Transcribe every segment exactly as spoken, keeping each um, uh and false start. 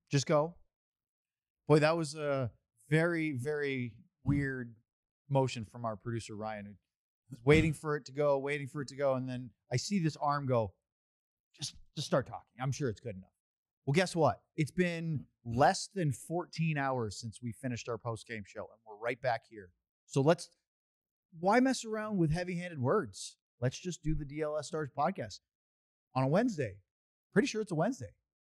Just go. Boy, that was a very, very weird motion from our producer, Ryan, who was waiting for it to go, waiting for it to go. And then I see this arm go, just, just start talking. I'm sure it's good enough. Well, guess what? It's been less than fourteen hours since we finished our post-game show, and we're right back here. So let's, why mess around with heavy-handed words? Let's just do the D L S Stars podcast on a Wednesday. Pretty sure it's a Wednesday.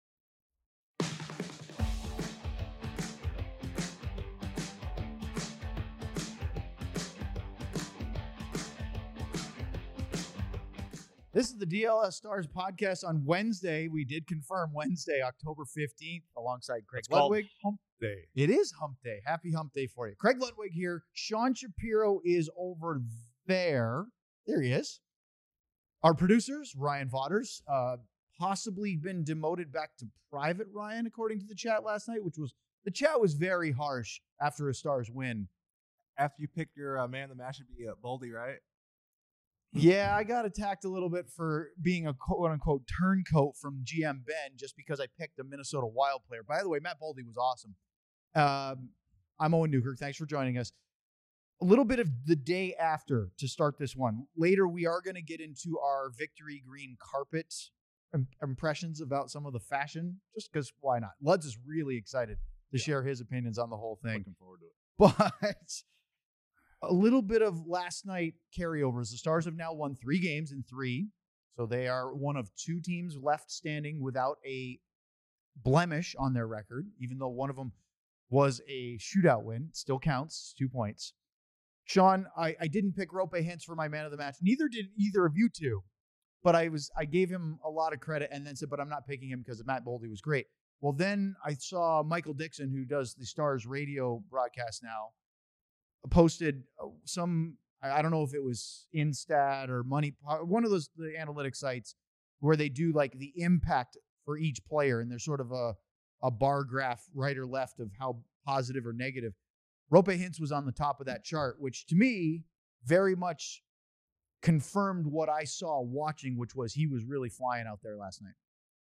This is the D L S Stars podcast on Wednesday. We did confirm Wednesday, October fifteenth, alongside Craig It's called Ludwig. Hump Day. It is Hump Day. Happy Hump Day for you. Craig Ludwig here. Sean Shapiro is over there. There he is. Our producers, Ryan Vaughters, uh, possibly been demoted back to Private Ryan, according to the chat last night, which was, the chat was very harsh after a Stars win. After you picked your uh, man, the match should be uh, Boldy, right? Yeah, I got attacked a little bit for being a quote-unquote turncoat from G M Ben just because I picked a Minnesota Wild player. By the way, Matt Boldy was awesome. Um, I'm Owen Newkirk. Thanks for joining us. A little bit of the day after to start this one. Later, we are going to get into our victory green carpet im- impressions about some of the fashion, just because why not? Luds is really excited to Yeah. share his opinions on the whole thing. Looking forward to it. But a little bit of last night carryovers. The Stars have now won three games in three. So they are one of two teams left standing without a blemish on their record, even though one of them was a shootout win. It still counts, two points. Sean, I, I didn't pick Rope Hintz for my man of the match. Neither did either of you two. But I was I gave him a lot of credit and then said, but I'm not picking him because Matt Boldy was great. Well, then I saw Michael Dixon, who does the Stars radio broadcast now, posted some, I don't know if it was Instat or Money, one of those the analytic sites where they do like the impact for each player, and there's sort of a, a bar graph right or left of how positive or negative. Rope Hintz was on the top of that chart, which to me very much confirmed what I saw watching, which was he was really flying out there last night.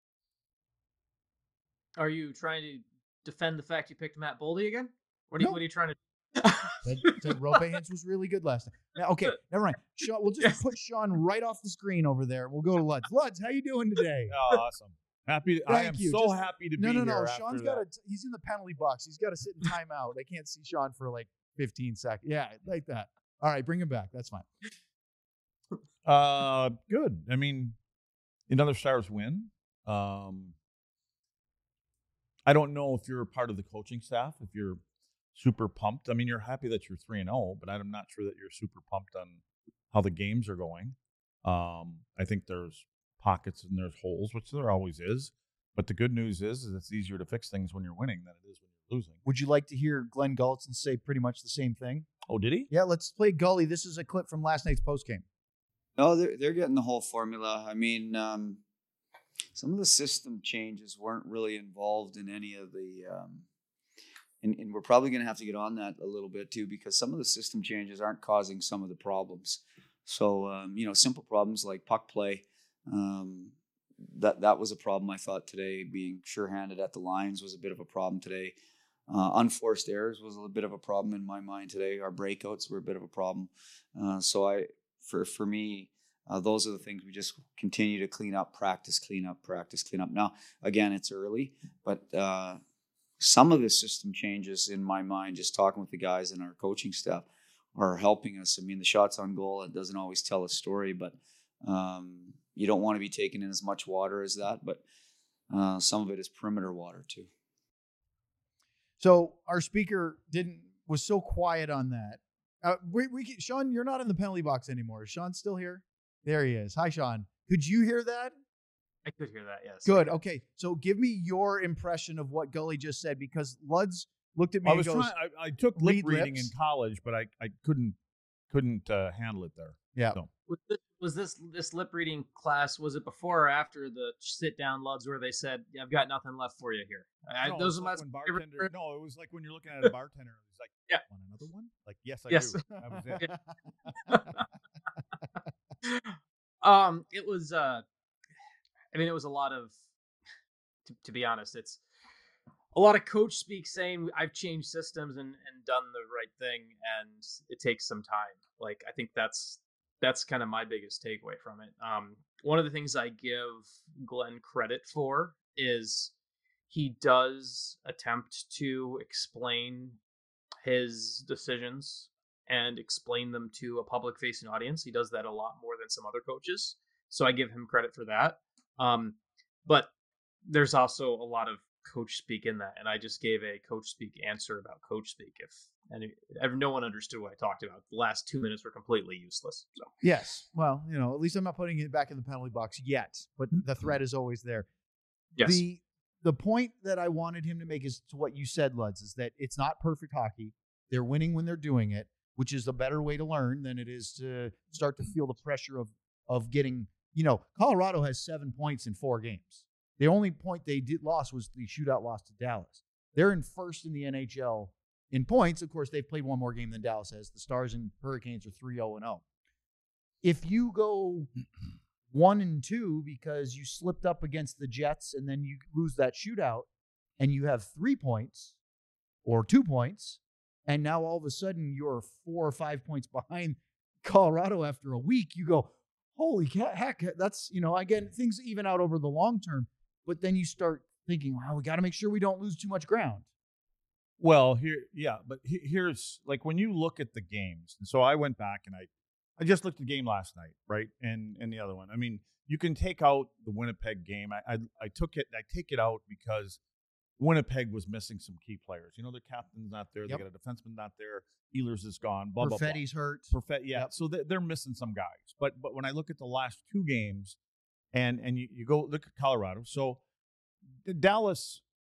Are you trying to defend the fact you picked Matt Boldy again? What are you, No. what are you trying to Said, said Rope Hintz was really good last night. Now, okay, never mind. Sean, we'll just Yes. put Sean right off the screen over there. We'll go to Luds. Luds, how you doing today? Oh, awesome. Happy. I Thank am you. so Just- happy to No, be no, here. no. after Sean's that. got a. He's in the penalty box. He's got to sit in timeout. They can't see Sean for like fifteen seconds. Yeah, like that. All right, bring him back. That's fine. Uh, good. I mean, another Stars win. Um, I don't know if you're a part of the coaching staff, if you're super pumped. I mean, you're happy that you're three and zero, but I'm not sure that you're super pumped on how the games are going. Um, I think there's pockets and there's holes, which there always is. But the good news is, is it's easier to fix things when you're winning than it is when you're losing. Would you like to hear Glenn Gulletson say pretty much the same thing? Oh, did he? Yeah, let's play Gully. This is a clip from last night's postgame. No, they're they're getting the whole formula. I mean, um, some of the system changes weren't really involved in any of the, um, and, and we're probably going to have to get on that a little bit too, because some of the system changes aren't causing some of the problems. So, um, you know, simple problems like puck play, um, that that was a problem I thought today. Being sure-handed at the lines was a bit of a problem today. Uh, unforced errors was a bit of a problem in my mind today. Our breakouts were a bit of a problem. Uh, so I. For for me, uh, those are the things we just continue to clean up, practice, clean up, practice, clean up. Now, again, it's early, but uh, some of the system changes in my mind, just talking with the guys and our coaching staff, are helping us. I mean, the shots on goal, it doesn't always tell a story, but um, you don't want to be taking in as much water as that. But uh, some of it is perimeter water too. So our speaker didn't was so quiet on that. Uh, we, we can, Sean, you're not in the penalty box anymore. Is Sean still here? There he is. Hi, Sean. Could you hear that? I could hear that, yes. Good. Okay. So give me your impression of what Gully just said, because Luds looked at me I and was goes, trying. I, I took lip read reading lips. in college, but I, I couldn't couldn't uh, handle it there. yeah. So. Was this, was this this lip reading class, was it before or after the sit down Luds where they said, yeah, I've got nothing left for you here? I, No, those it's are like my when favorite. bartender. No, it was like when you're looking at a bartender. It was like, Yeah. want another one? Like, yes, I Yes. do. That was it. um, it was. Uh, I mean, it was a lot of. To, to be honest, it's a lot of coach speak saying I've changed systems and, and done the right thing, and it takes some time. Like, I think that's that's kind of my biggest takeaway from it. Um, one of the things I give Glenn credit for is he does attempt to explain his decisions and explain them to a public facing audience. He does that a lot more than some other coaches. So I give him credit for that. Um, but there's also a lot of coach speak in that. And I just gave a coach speak answer about coach speak. If any, if no one understood what I talked about, the last two minutes were completely useless. So yes. Well, you know, at least I'm not putting it back in the penalty box yet, but the threat is always there. yes. The, the point that I wanted him to make is to what you said, Luds, is that it's not perfect hockey. They're winning when they're doing it, which is a better way to learn than it is to start to feel the pressure of of getting, you know, Colorado has seven points in four games. The only point they did lost was the shootout loss to Dallas. They're in first in the N H L in points. Of course, they've played one more game than Dallas has. The Stars and Hurricanes are three oh and oh. If you go one and two because you slipped up against the Jets and then you lose that shootout and you have three points or two points, and now all of a sudden you're four or five points behind Colorado after a week, you go, holy heck, that's, you know, again, things even out over the long term. But then you start thinking, wow, we got to make sure we don't lose too much ground. Well, here, yeah, but he- here's like when you look at the games. And so I went back and I, I just looked at the game last night, right, and and the other one. I mean, you can take out the Winnipeg game. I I, I took it. I take it out because Winnipeg was missing some key players. You know, their captain's not there. Yep. They got a defenseman not there. Ehlers is gone. Blah blah blah. Perfetti's hurt. Perfett, yeah. Yep. So they- they're missing some guys. But but when I look at the last two games, and and you, you go look at Colorado. So the Dallas,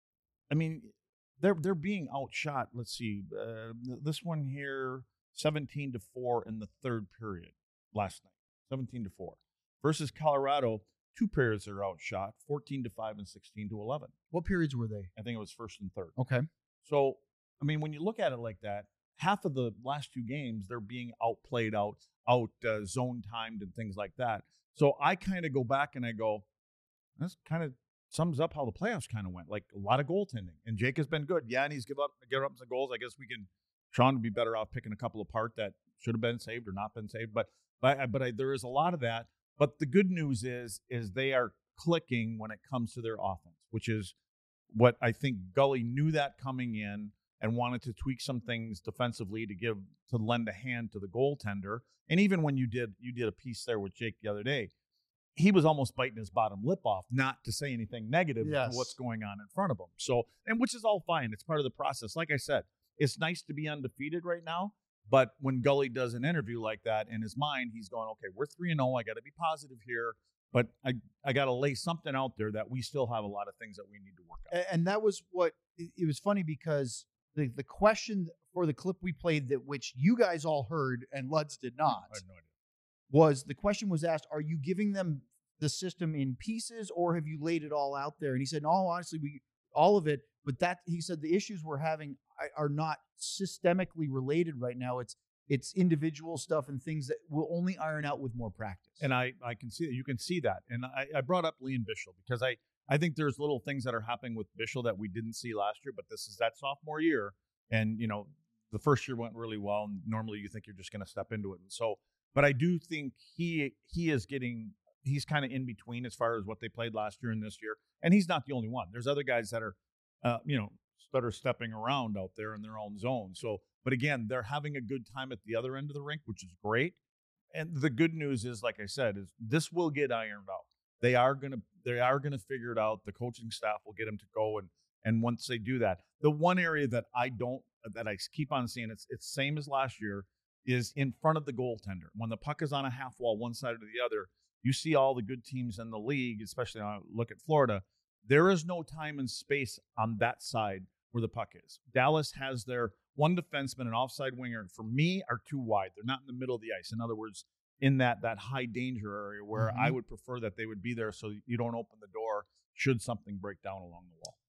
I mean, they're they're being outshot. Let's see, uh, this one here, seventeen to four in the third period last night. Seventeen to four versus Colorado. Two periods are outshot, fourteen to five and sixteen to eleven. What periods were they? I think it was first and third. Okay. So, I mean, when you look at it like that, half of the last two games, they're being outplayed, out, out uh, zone timed and things like that. So I kind of go back and I go, this kind of sums up how the playoffs kind of went. Like a lot of goaltending. And Jake has been good. Yeah, and he's given up, given up some goals. I guess we can, Sean would be better off picking a couple apart that should have been saved or not been saved. But, but, but I, there is a lot of that. But the good news is, is they are clicking when it comes to their offense, which is what I think Gully knew that coming in and wanted to tweak some things defensively to give, to lend a hand to the goaltender. And even when you did, you did a piece there with Jake the other day, he was almost biting his bottom lip off, not to say anything negative Yes. to what's going on in front of him. So, and which is all fine. It's part of the process. Like I said, it's nice to be undefeated right now. But when Gully does an interview like that, in his mind, he's going, okay, we're three and oh. I got to be positive here. But I, I got to lay something out there that we still have a lot of things that we need to work on. A- And that was what, it it was funny because the, the question for the clip we played that which you guys all heard and Luds did not I have no idea. was the question was asked, are you giving them the system in pieces or have you laid it all out there? And he said, no, honestly, we all of it. But that he said the issues we're having are not systemically related right now. It's it's individual stuff and things that will only iron out with more practice. And I, I can see that. You can see that. And I, I brought up Liam Bichel because I, I think there's little things that are happening with Bichel that we didn't see last year, but this is that sophomore year. And, you know, the first year went really well. And normally you think you're just going to step into it. And so, but I do think he he is getting, he's kind of in between as far as what they played last year and this year. And he's not the only one. There's other guys that are, uh, you know, that are stepping around out there in their own zone. So, but again, they're having a good time at the other end of the rink, which is great. And the good news is, like I said, is this will get ironed out. They are gonna they are gonna figure it out. The coaching staff will get them to go, and and once they do that, the one area that I don't that I keep on seeing it's it's same as last year is in front of the goaltender. When the puck is on a half wall, one side or the other, you see all the good teams in the league, especially when I look at Florida. There is no time and space on that side where the puck is. Dallas has their one defenseman and offside winger, for me, are too wide. They're not in the middle of the ice. In other words, in that that high danger area where Mhm. I would prefer that they would be there so you don't open the door should something break down along the wall.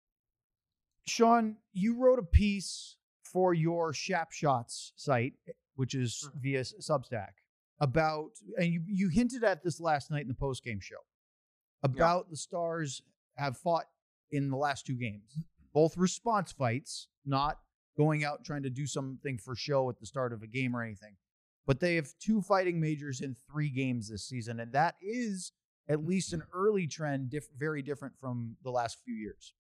Sean, you wrote a piece for your Shap Shots site, which is Mhm. via Substack, about, and you, you hinted at this last night in the postgame show, about the Stars have fought in the last two games. both response fights, not going out trying to do something for show at the start of a game or anything. But they have two fighting majors in three games this season, and that is at least an early trend, diff- very different from the last few years.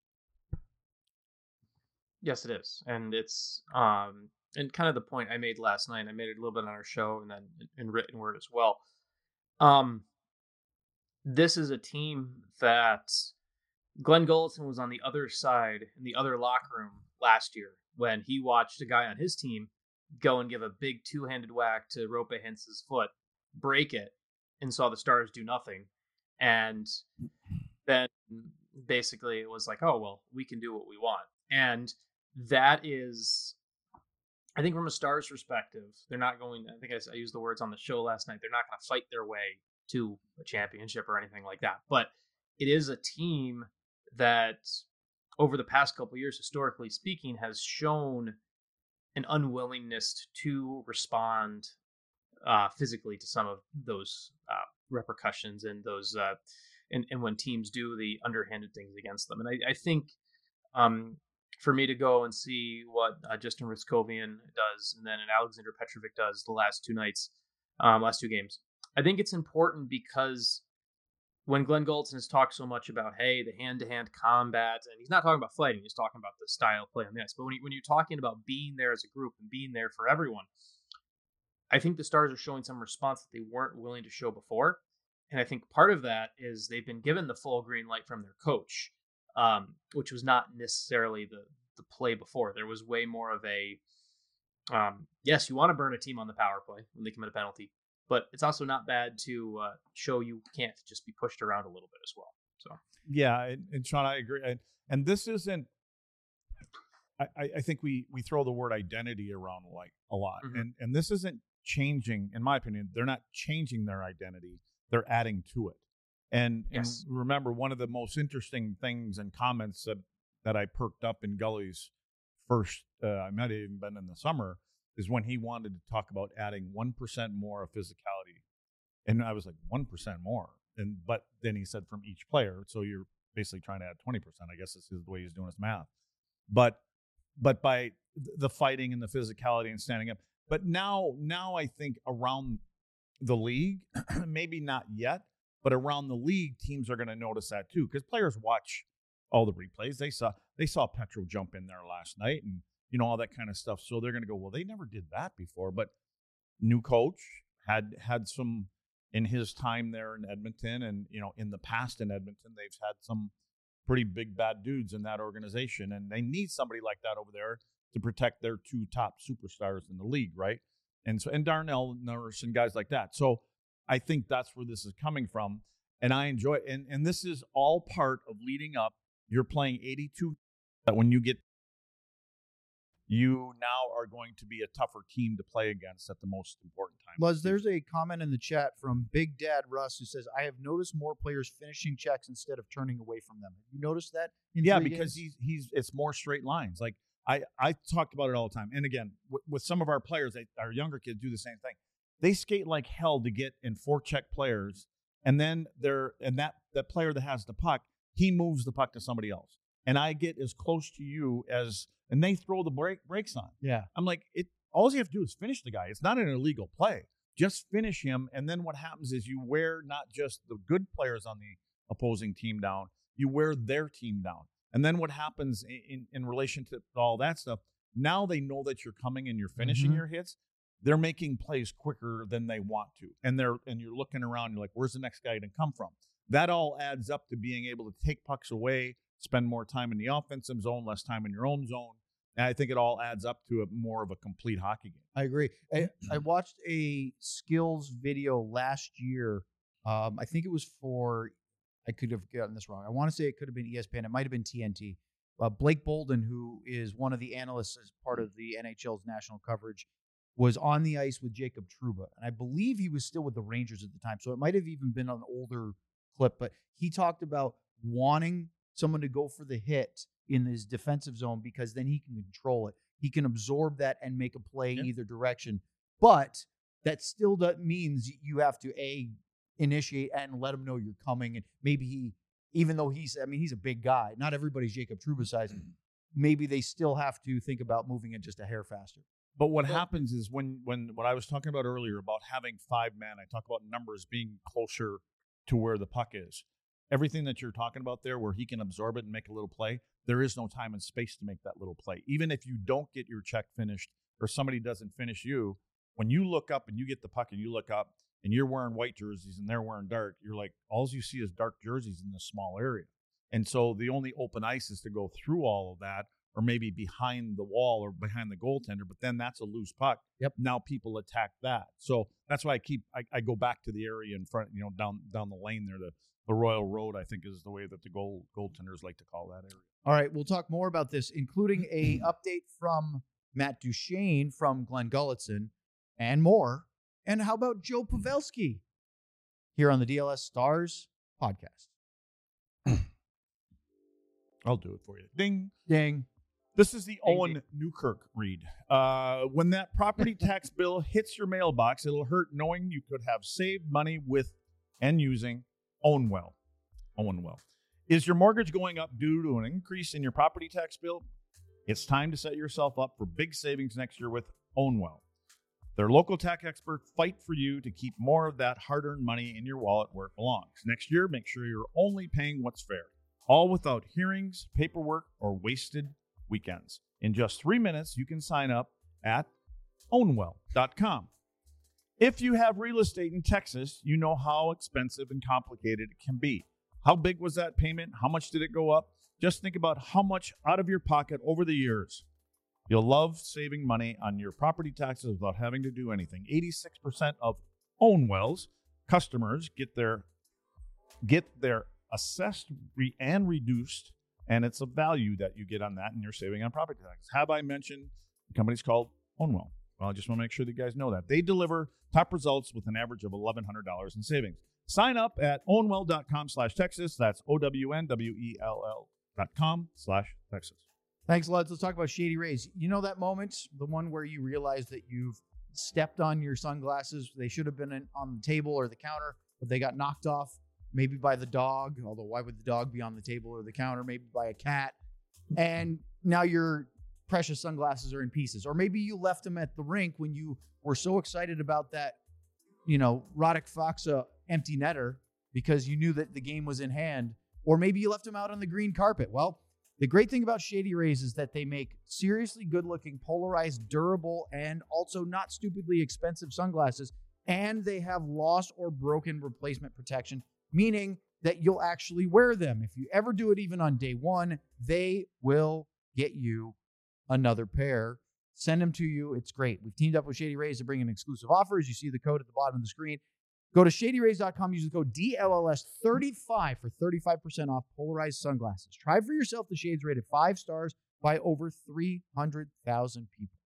Yes, it is, and it's um, and kind of the point I made last night. I made it a little bit on our show, and then in written word as well. Um, this is a team that Glenn Gulleton was on the other side in the other locker room last year when he watched a guy on his team go and give a big two-handed whack to Rope Hintz's foot, break it, and saw the Stars do nothing. And then basically it was like, oh, well, we can do what we want. And that is, I think from a Stars perspective, they're not going, I think I, I used the words on the show last night, they're not going to fight their way to a championship or anything like that. But it is a team that over the past couple of years, historically speaking, has shown an unwillingness to respond uh, physically to some of those uh, repercussions and those, uh, and, and when teams do the underhanded things against them. And I, I think um, for me to go and see what uh, Justin Ristkovian does and then Alexander Petrovic does the last two nights, um, last two games, I think it's important because when Glenn Gulleton has talked so much about, hey, the hand-to-hand combat, and he's not talking about fighting, he's talking about the style of play on the ice. But when, he, when you're talking about being there as a group and being there for everyone, I think the Stars are showing some response that they weren't willing to show before. And I think part of that is they've been given the full green light from their coach, um, which was not necessarily the, the play before. There was way more of a, um, yes, you want to burn a team on the power play when they commit a penalty, but it's also not bad to uh, show you can't just be pushed around a little bit as well. So yeah, and, and Sean, I agree. And, and this isn't. I, I think we we throw the word identity around like a lot, mm-hmm. and and this isn't changing. In my opinion, they're not changing their identity; they're adding to it. And yes. and remember, one of the most interesting things and comments that that I perked up in Gully's first, uh, I might have even been in the summer, is when he wanted to talk about adding one percent more of physicality. And I was like, one percent more. And but then he said from each player. So you're basically trying to add twenty percent. I guess this is the way he's doing his math. But but by the fighting and the physicality and standing up. But now, now I think around the league, maybe not yet, but around the league, teams are going to notice that too. Because players watch all the replays. They saw they saw Petro jump in there last night and you know, all that kind of stuff. So they're going to go, well, they never did that before. But new coach had had some in his time there in Edmonton, and you know, in the past in Edmonton, they've had some pretty big bad dudes in that organization, and they need somebody like that over there to protect their two top superstars in the league, right? And so and Darnell Nurse and guys like that. So I think that's where this is coming from, and I enjoy it. And and this is all part of leading up. You're playing eighty-two. That when you get you now are going to be a tougher team to play against at the most important time. Luz, there's a comment in the chat from Big Dad Russ who says, I have noticed more players finishing checks instead of turning away from them. Have you noticed that? Yeah, because games? he's he's it's more straight lines. Like I, I talked about it all the time. And again, w- with some of our players, they, our younger kids do the same thing. They skate like hell to get in forecheck players, and then they're and that that player that has the puck, he moves the puck to somebody else. And I get as close to you as and they throw the break brakes on. Yeah. I'm like, it all you have to do is finish the guy. It's not an illegal play. Just finish him. And then what happens is you wear not just the good players on the opposing team down, you wear their team down. And then what happens in, in, in relation to all that stuff, now they know that you're coming and you're finishing mm-hmm. your hits. They're making plays quicker than they want to. And they're and you're looking around, you're like, where's the next guy to come from? That all adds up to being able to take pucks away, spend more time in the offensive zone, less time in your own zone. And I think it all adds up to a more of a complete hockey game. I agree. I, I watched a skills video last year. Um, I think it was for, I could have gotten this wrong. I want to say it could have been E S P N. It might have been T N T. Uh, Blake Bolden, who is one of the analysts as part of the N H L's national coverage, was on the ice with Jacob Trouba. And I believe he was still with the Rangers at the time. So it might have even been an older clip. But he talked about wanting someone to go for the hit in his defensive zone because then he can control it. He can absorb that and make a play yeah. in either direction. But that still does, means you have to, A, initiate and let him know you're coming. And maybe he, even though he's, I mean, he's a big guy. Not everybody's Jacob Trouba size. maybe they still have to think about moving it just a hair faster. But what Well- happens is when when what I was talking about earlier about having five men, I talk about numbers being closer to where the puck is. Everything that you're talking about there, where he can absorb it and make a little play, there is no time and space to make that little play. Even if you don't get your check finished or somebody doesn't finish you, when you look up and you get the puck and you look up and you're wearing white jerseys and they're wearing dark, you're like, all you see is dark jerseys in this small area. And so the only open ice is to go through all of that, or maybe behind the wall or behind the goaltender, but then that's a loose puck. Yep. Now people attack that. So that's why I keep I, I go back to the area in front, you know, down down the lane there. The the Royal Road, I think, is the way that the goal goaltenders like to call that area. All right, we'll talk more about this, including a update from Matt Duchene from Glenn Gulletson and more. And how about Joe Pavelski here on the D L S Stars podcast? I'll do it for you. Ding. Ding. This is the Ding, Owen ding. Newkirk read. Uh, when that property tax bill hits your mailbox, it'll hurt knowing you could have saved money with and using Ownwell. Ownwell. Is your mortgage going up due to an increase in your property tax bill? It's time to set yourself up for big savings next year with Ownwell. Their local tax experts fight for you to keep more of that hard-earned money in your wallet where it belongs. Next year, make sure you're only paying what's fair, all without hearings, paperwork, or wasted weekends. In just three minutes, you can sign up at ownwell dot com. If you have real estate in Texas, you know how expensive and complicated it can be. How big was that payment? How much did it go up? Just think about how much out of your pocket over the years. You'll love saving money on your property taxes without having to do anything. eighty-six percent of Ownwell's customers get their get their assessed re- and reduced, and it's a value that you get on that, and you're saving on property taxes. Have I mentioned the company's called Ownwell? Well, I just want to make sure that you guys know that. They deliver top results with an average of eleven hundred dollars in savings. Sign up at ownwell dot com slash Texas. That's O W N W E L L dot com slash Texas. Thanks, Luds. Let's talk about Shady Rays. You know that moment, the one where you realize that you've stepped on your sunglasses. They should have been in, on the table or the counter, but they got knocked off maybe by the dog, although why would the dog be on the table or the counter? Maybe by a cat. And now your precious sunglasses are in pieces. Or maybe you left them at the rink when you were so excited about that, you know, Roddick Foxa empty netter because you knew that the game was in hand. Or maybe you left them out on the green carpet. Well, the great thing about Shady Rays is that they make seriously good-looking, polarized, durable, and also not stupidly expensive sunglasses, and they have lost or broken replacement protection, meaning that you'll actually wear them. If you ever do it even on day one, they will get you another pair. Send them to you. It's great. We've teamed up with Shady Rays to bring in exclusive offers. You see the code at the bottom of the screen. Go to shady rays dot com. Use the code D L L S thirty-five for thirty-five percent off polarized sunglasses. Try for yourself the shades rated five stars by over three hundred thousand people.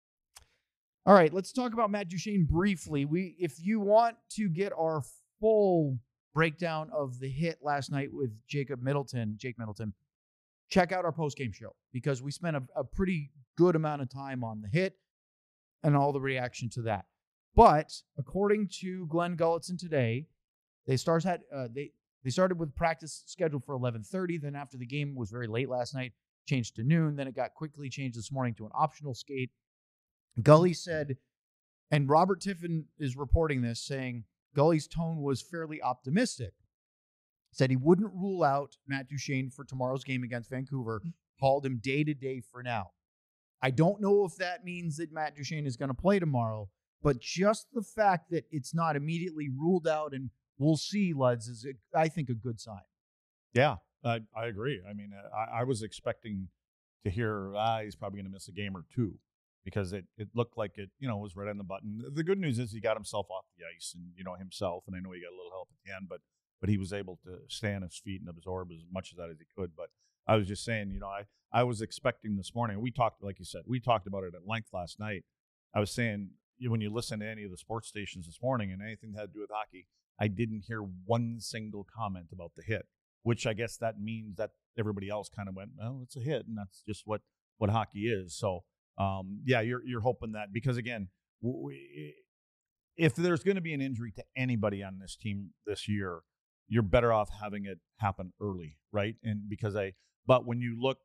All right, let's talk about Matt Duchene briefly. We, if you want to get our full breakdown of the hit last night with Jacob Middleton, Jake Middleton, check out our post-game show because we spent a, a pretty good amount of time on the hit and all the reaction to that. But according to Glenn Gulletson today, they Stars had uh, they they started with practice scheduled for eleven thirty. Then after the game was very late last night, changed to noon. Then it got quickly changed this morning to an optional skate. Gully said, and Robert Tiffin is reporting this, saying Gully's tone was fairly optimistic. Said he wouldn't rule out Matt Duchene for tomorrow's game against Vancouver. Called him day to day for now. I don't know if that means that Matt Duchene is going to play tomorrow. But just the fact that it's not immediately ruled out and we'll see, Luds, is, a, I think, a good sign. Yeah, I, I agree. I mean, I, I was expecting to hear, ah, he's probably going to miss a game or two because it, it looked like it, you know, was right on the button. The good news is he got himself off the ice and, you know, himself, and I know he got a little help at the end, but but he was able to stay on his feet and absorb as much of that as he could. But I was just saying, you know, I, I was expecting this morning, we talked, like you said, we talked about it at length last night. I was saying, when you listen to any of the sports stations this morning and anything that had to do with hockey, I didn't hear one single comment about the hit, which I guess that means that everybody else kind of went, well, it's a hit, and that's just what, what hockey is. So, um, yeah, you're you're hoping that because, again, we, if there's going to be an injury to anybody on this team this year, you're better off having it happen early, right? And because I, but when you look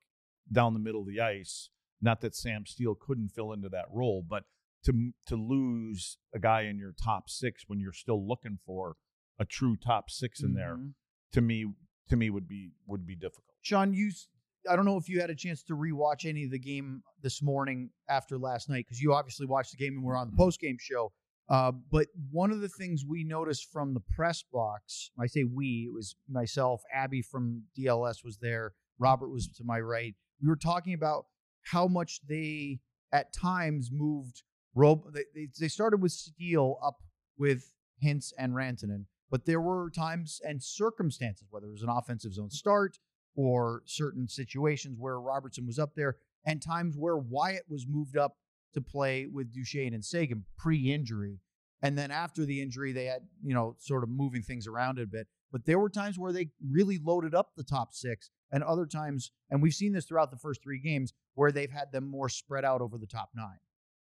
down the middle of the ice. Not that Sam Steele couldn't fill into that role, but to to lose a guy in your top six when you're still looking for a true top six in mm-hmm. there, to me to me would be would be difficult. Sean, you I don't know if you had a chance to rewatch any of the game this morning after last night, because you obviously watched the game and we're on the post-game show. Uh, but one of the things we noticed from the press box, I say we, it was myself, Abby from D L S was there, Robert was to my right. We were talking about how much they, at times, moved. Rob- they, they started with Steele up with Hintz and Rantanen, but there were times and circumstances, whether it was an offensive zone start or certain situations where Robertson was up there, and times where Wyatt was moved up to play with Duchesne and Sagan pre-injury. And then after the injury, they had, you know, sort of moving things around a bit. But there were times where they really loaded up the top six, and other times, and we've seen this throughout the first three games, where they've had them more spread out over the top nine.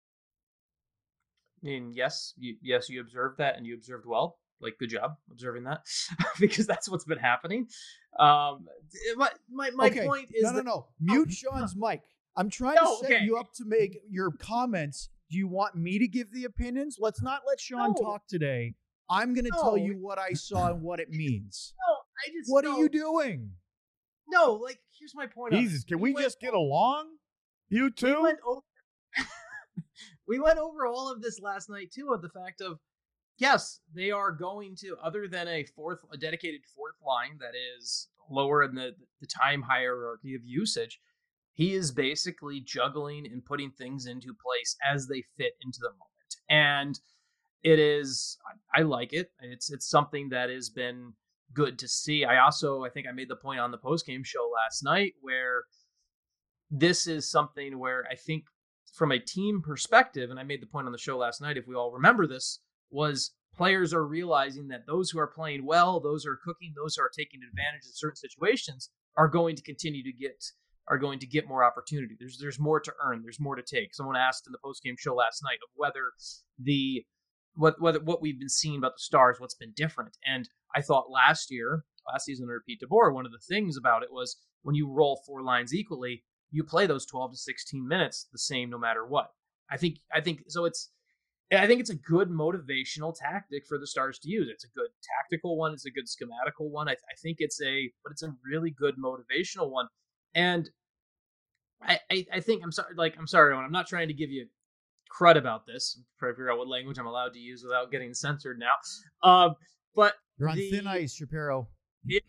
I mean, yes, you, yes, you observed that, and you observed well. Like, good job observing that, because that's what's been happening. Um, my my, my okay. point is no, no, that, no. Mute oh, Sean's mic. I'm trying no, to set okay. you up to make your comments. Do you want me to give the opinions? Let's not let Sean no. talk today. I'm going to no. tell you what I saw and what it means. No, I just. What no. are you doing? No, like, here's my point. Jesus, can we, we just get along? You two. We went over. we went over all of this last night too, of the fact of. Yes, they are going to, other than a fourth, a dedicated fourth line that is lower in the, the time hierarchy of usage, he is basically juggling and putting things into place as they fit into the moment. And it is, I like it. It's it's something that has been good to see. I also, I think I made the point on the postgame show last night where this is something where I think from a team perspective, and I made the point on the show last night, if we all remember this, was players are realizing that those who are playing well, those who are cooking, those who are taking advantage of certain situations are going to continue to get are going to get more opportunity. There's there's more to earn. There's more to take. Someone asked in the postgame show last night of whether the what whether what we've been seeing about the Stars, what's been different. And I thought last year, last season under Pete DeBoer, one of the things about it was when you roll four lines equally, you play those twelve to sixteen minutes the same no matter what. I think I think so it's I think it's a good motivational tactic for the Stars to use. It's a good tactical one. It's a good schematical one. I, I think it's a, but it's a really good motivational one. And I, I, I think I'm sorry, like I'm sorry, I'm not trying to give you crud about this. I'm trying to figure out what language I'm allowed to use without getting censored now. Um, but you're on the, thin ice, Shapiro. If,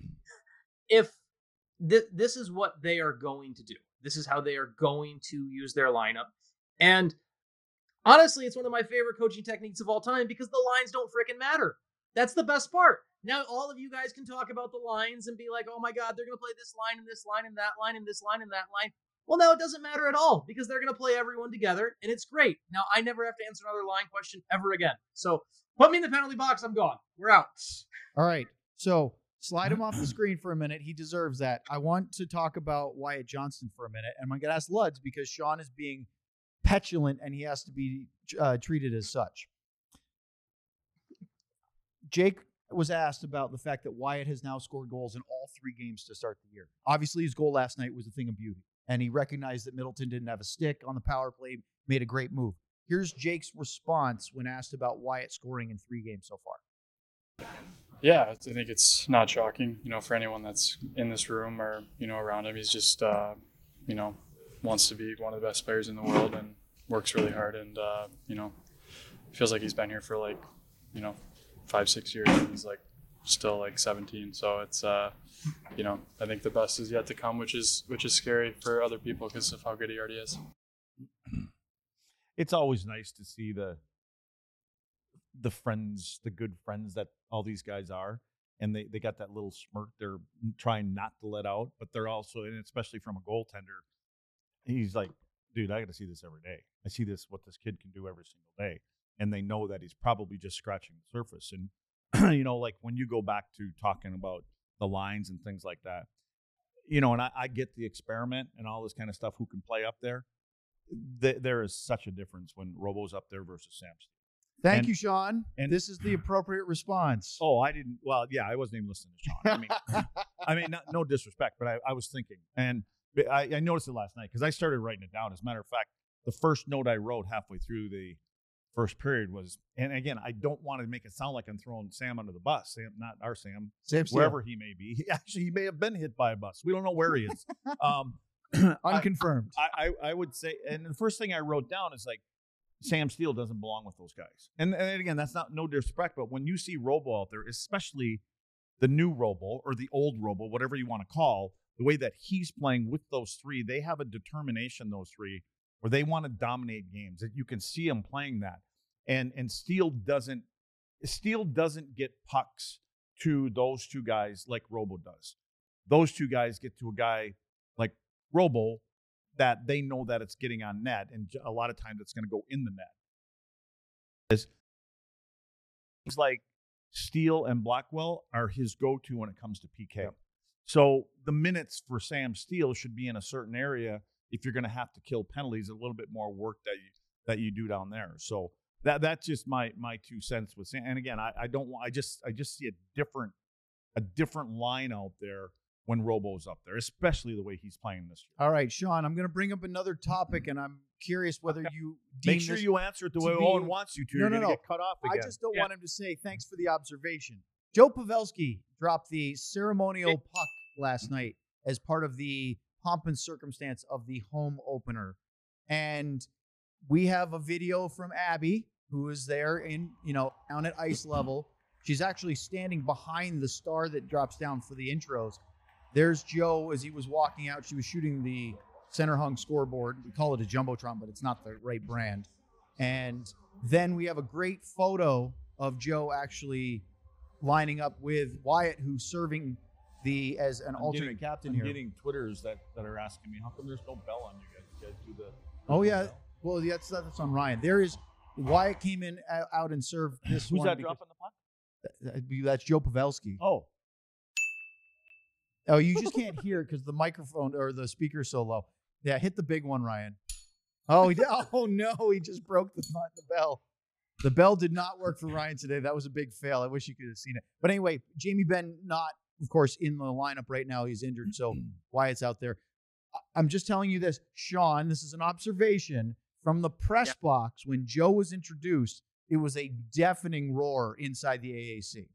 if th- this is what they are going to do, this is how they are going to use their lineup, and honestly, it's one of my favorite coaching techniques of all time because the lines don't freaking matter. That's the best part. Now, all of you guys can talk about the lines and be like, oh my God, they're going to play this line and this line and that line and this line and that line. Well, no, it doesn't matter at all because they're going to play everyone together and it's great. Now, I never have to answer another line question ever again. So put me in the penalty box. I'm gone. We're out. All right. So slide him off the screen for a minute. He deserves that. I want to talk about Wyatt Johnston for a minute. And I'm going to ask Luds because Sean is being petulant and he has to be uh, treated as such. Jake was asked about the fact that Wyatt has now scored goals in all three games to start the year. Obviously, his goal last night was a thing of beauty, and he recognized that Middleton didn't have a stick on the power play, made a great move. Here's Jake's response when asked about Wyatt scoring in three games so far. Yeah, I think it's not shocking, you know, for anyone that's in this room or, you know, around him. He's just, uh, you know, wants to be one of the best players in the world and works really hard. And, uh, you know, feels like he's been here for like, you know, five, six years. And he's like still like seventeen. So it's, uh, you know, I think the best is yet to come, which is, which is scary for other people because of how good he already is. It's always nice to see the, the friends, the good friends that all these guys are. And they, they got that little smirk they're trying not to let out, but they're also, and especially from a goaltender, he's like, dude, I got to see this every day. I see this, what this kid can do every single day. And they know that he's probably just scratching the surface. And, you know, like when you go back to talking about the lines and things like that, you know, and I, I get the experiment and all this kind of stuff, who can play up there. Th- there is such a difference when Robo's up there versus Sam Steele. Thank and, you, Sean. And this is the appropriate response. Oh, I didn't. Well, yeah, I wasn't even listening to Sean. I mean, I mean, not, no disrespect, but I, I was thinking. And But I, I noticed it last night because I started writing it down. As a matter of fact, the first note I wrote halfway through the first period was, and again, I don't want to make it sound like I'm throwing Sam under the bus. Sam, not our Sam, Sam Steele. wherever he may be. He, actually, he may have been hit by a bus. We don't know where he is. um, Unconfirmed. I, I, I would say, and the first thing I wrote down is like, Sam Steele doesn't belong with those guys. And, and again, that's not no disrespect, but when you see Robo out there, especially the new Robo or the old Robo, whatever you want to call, the way that he's playing with those three, they have a determination, those three, where they want to dominate games. You can see them playing that. And and Steele doesn't Steele doesn't get pucks to those two guys like Robo does. Those two guys get to a guy like Robo that they know that it's getting on net, and a lot of times it's going to go in the net. It's like Steele and Blackwell are his go-to when it comes to P K. Yep. So the minutes for Sam Steele should be in a certain area if you're going to have to kill penalties, a little bit more work that you that you do down there. So that that's just my my two cents with Sam. And again, I, I don't want I just I just see a different a different line out there when Robo's up there, especially the way he's playing this year. All right, Sean, I'm going to bring up another topic, and I'm curious whether okay. you deem Make sure this you answer it the way be, Owen wants you to. No, You're no, going to no. get cut off again. I just don't yeah. want him to say thanks for the observation. Joe Pavelski dropped the ceremonial puck last night as part of the pomp and circumstance of the home opener. And we have a video from Abby, who is there in, you know, down at ice level. She's actually standing behind the star that drops down for the intros. There's Joe as he was walking out. She was shooting the center hung scoreboard. We call it a Jumbotron, but it's not the right brand. And then we have a great photo of Joe actually lining up with Wyatt, who's serving the as an I'm alternate getting, captain I'm here. getting Twitters that, that are asking me, how come there's no bell on you guys? You guys do the Oh, yeah. Well, that's, that's on Ryan. There is Wyatt came in out and served this Who's one. that because- dropping the puck? That'd be- That's Joe Pavelski. Oh, Oh, you just can't hear it because the microphone or the speaker's so low. Yeah, hit the big one, Ryan. Oh, he did. Oh no, he just broke the, the bell. The bell did not work for Ryan today. That was a big fail. I wish you could have seen it. But anyway, Jamie Benn not, of course, in the lineup right now. He's injured, so Wyatt's out there. I'm just telling you this, Sean. This is an observation from the press yeah. box when Joe was introduced. It was a deafening roar inside the A A C.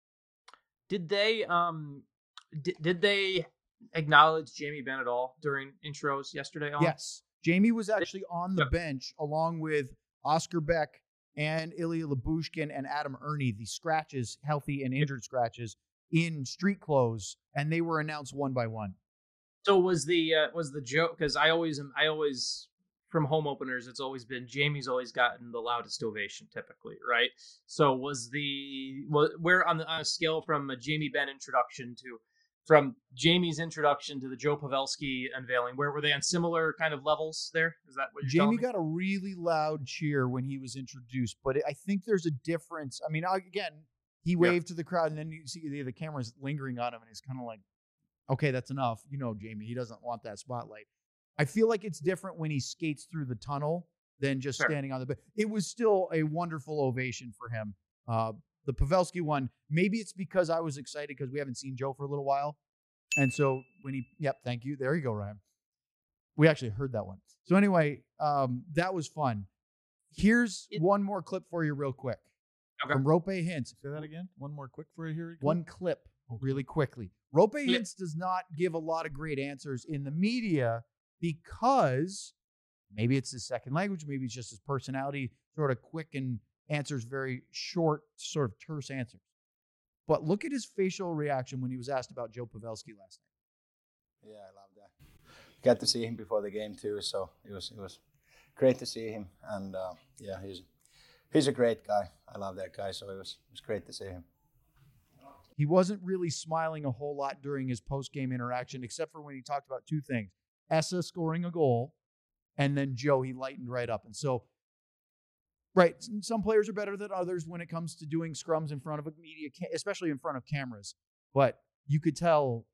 Did they um did, did they acknowledge Jamie Benn at all during intros yesterday? On? Yes. Jamie was actually on the Yep. bench along with Oscar Beck and Ilya Labushkin and Adam Ernie, the scratches, healthy and injured scratches, in street clothes, and they were announced one by one. So was the uh, was the joke, because I always am I always from home openers, it's always been Jamie's always gotten the loudest ovation typically, right? So was the was, where on the on a scale from a Jamie Benn introduction to from Jamie's introduction to the Joe Pavelski unveiling, where were they on similar kind of levels there? Is that what you're Jamie telling me? got a really loud cheer when he was introduced, but I think there's a difference. I mean, again, he waved to the crowd, and then you see the, the camera's lingering on him, and he's kind of like, okay, that's enough. You know, Jamie, he doesn't want that spotlight. I feel like it's different when he skates through the tunnel than just Sure. standing on the bench. It was still a wonderful ovation for him. Uh, the Pavelski one, maybe it's because I was excited because we haven't seen Joe for a little while. And so when he, yep, thank you. There you go, Ryan. We actually heard that one. So anyway, um, that was fun. Here's It- one more clip for you real quick. Okay. From Rope Hintz. say that again. One more quick for you here. One clip really quickly. Rope Hintz does not give a lot of great answers in the media because maybe it's his second language, maybe it's just his personality, sort of quick and answers very short, sort of terse answers. But look at his facial reaction when he was asked about Joe Pavelski last night. Yeah, I love that. Got to see him before the game too, so it was it was great to see him. And uh, yeah, he's he's a great guy. I love that guy, so it was it was great to see him. He wasn't really smiling a whole lot during his post-game interaction, except for when he talked about two things. Essa scoring a goal, and then Joe, he lightened right up. And so, right, some players are better than others when it comes to doing scrums in front of a media, especially in front of cameras. But you could tell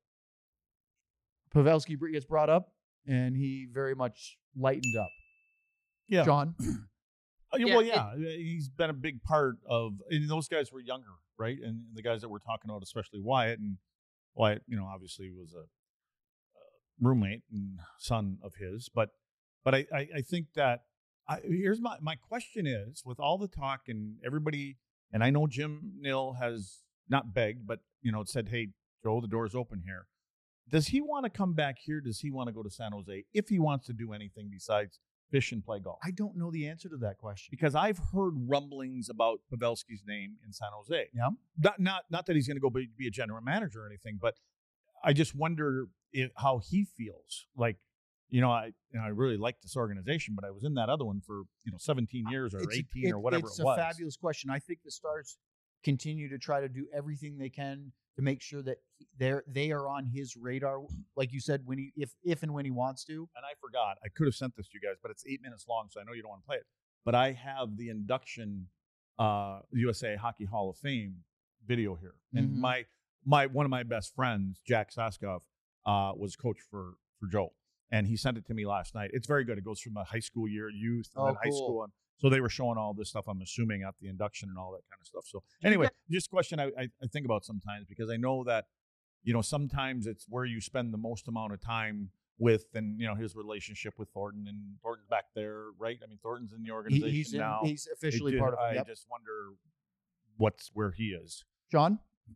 Pavelski gets brought up, and he very much lightened up. Yeah. John? Oh, yeah, Yeah, well, it- yeah, he's been a big part of, and those guys were younger, right? And the guys that we're talking about, especially Wyatt, and Wyatt, you know, obviously was a uh, roommate and son of his. But but I, I, I think that I, here's my, my question is, with all the talk and everybody, and I know Jim Nill has not begged, but, you know, said, hey, Joe, the door's open here. Does he want to come back here? Does he want to go to San Jose if he wants to do anything besides fish and play golf? I don't know the answer to that question. Because I've heard rumblings about Pavelski's name in San Jose. Yeah. Not not, not that he's going to go be, be a general manager or anything, but I just wonder if, how he feels. Like, you know, I you know, I really like this organization, but I was in that other one for, you know, seventeen years or It's a- eighteen it- or whatever it's it was. a fabulous question. I think the Stars continue to try to do everything they can to make sure that he- they're they are on his radar, like you said, when he if if and when he wants to. And I forgot. I could have sent this to you guys, but it's eight minutes long, so I know you don't want to play it. But I have the induction uh, U S A Hockey Hall of Fame video here. And Mhm. my my one of my best friends, Jack Saskov, uh, was coach for for Joe. And he sent it to me last night. It's very good. It goes from the high school year, youth, and Oh, then high cool. school. And so they were showing all this stuff, I'm assuming, at the induction and all that kind of stuff. So anyway, just a question I, I, I think about sometimes, because I know that, you know, sometimes it's where you spend the most amount of time with, and, you know, his relationship with Thornton. And Thornton's back there, right? I mean, Thornton's in the He- organization he's in, now. he's It officially did- part of it. I Yep. just wonder what's where he is. John?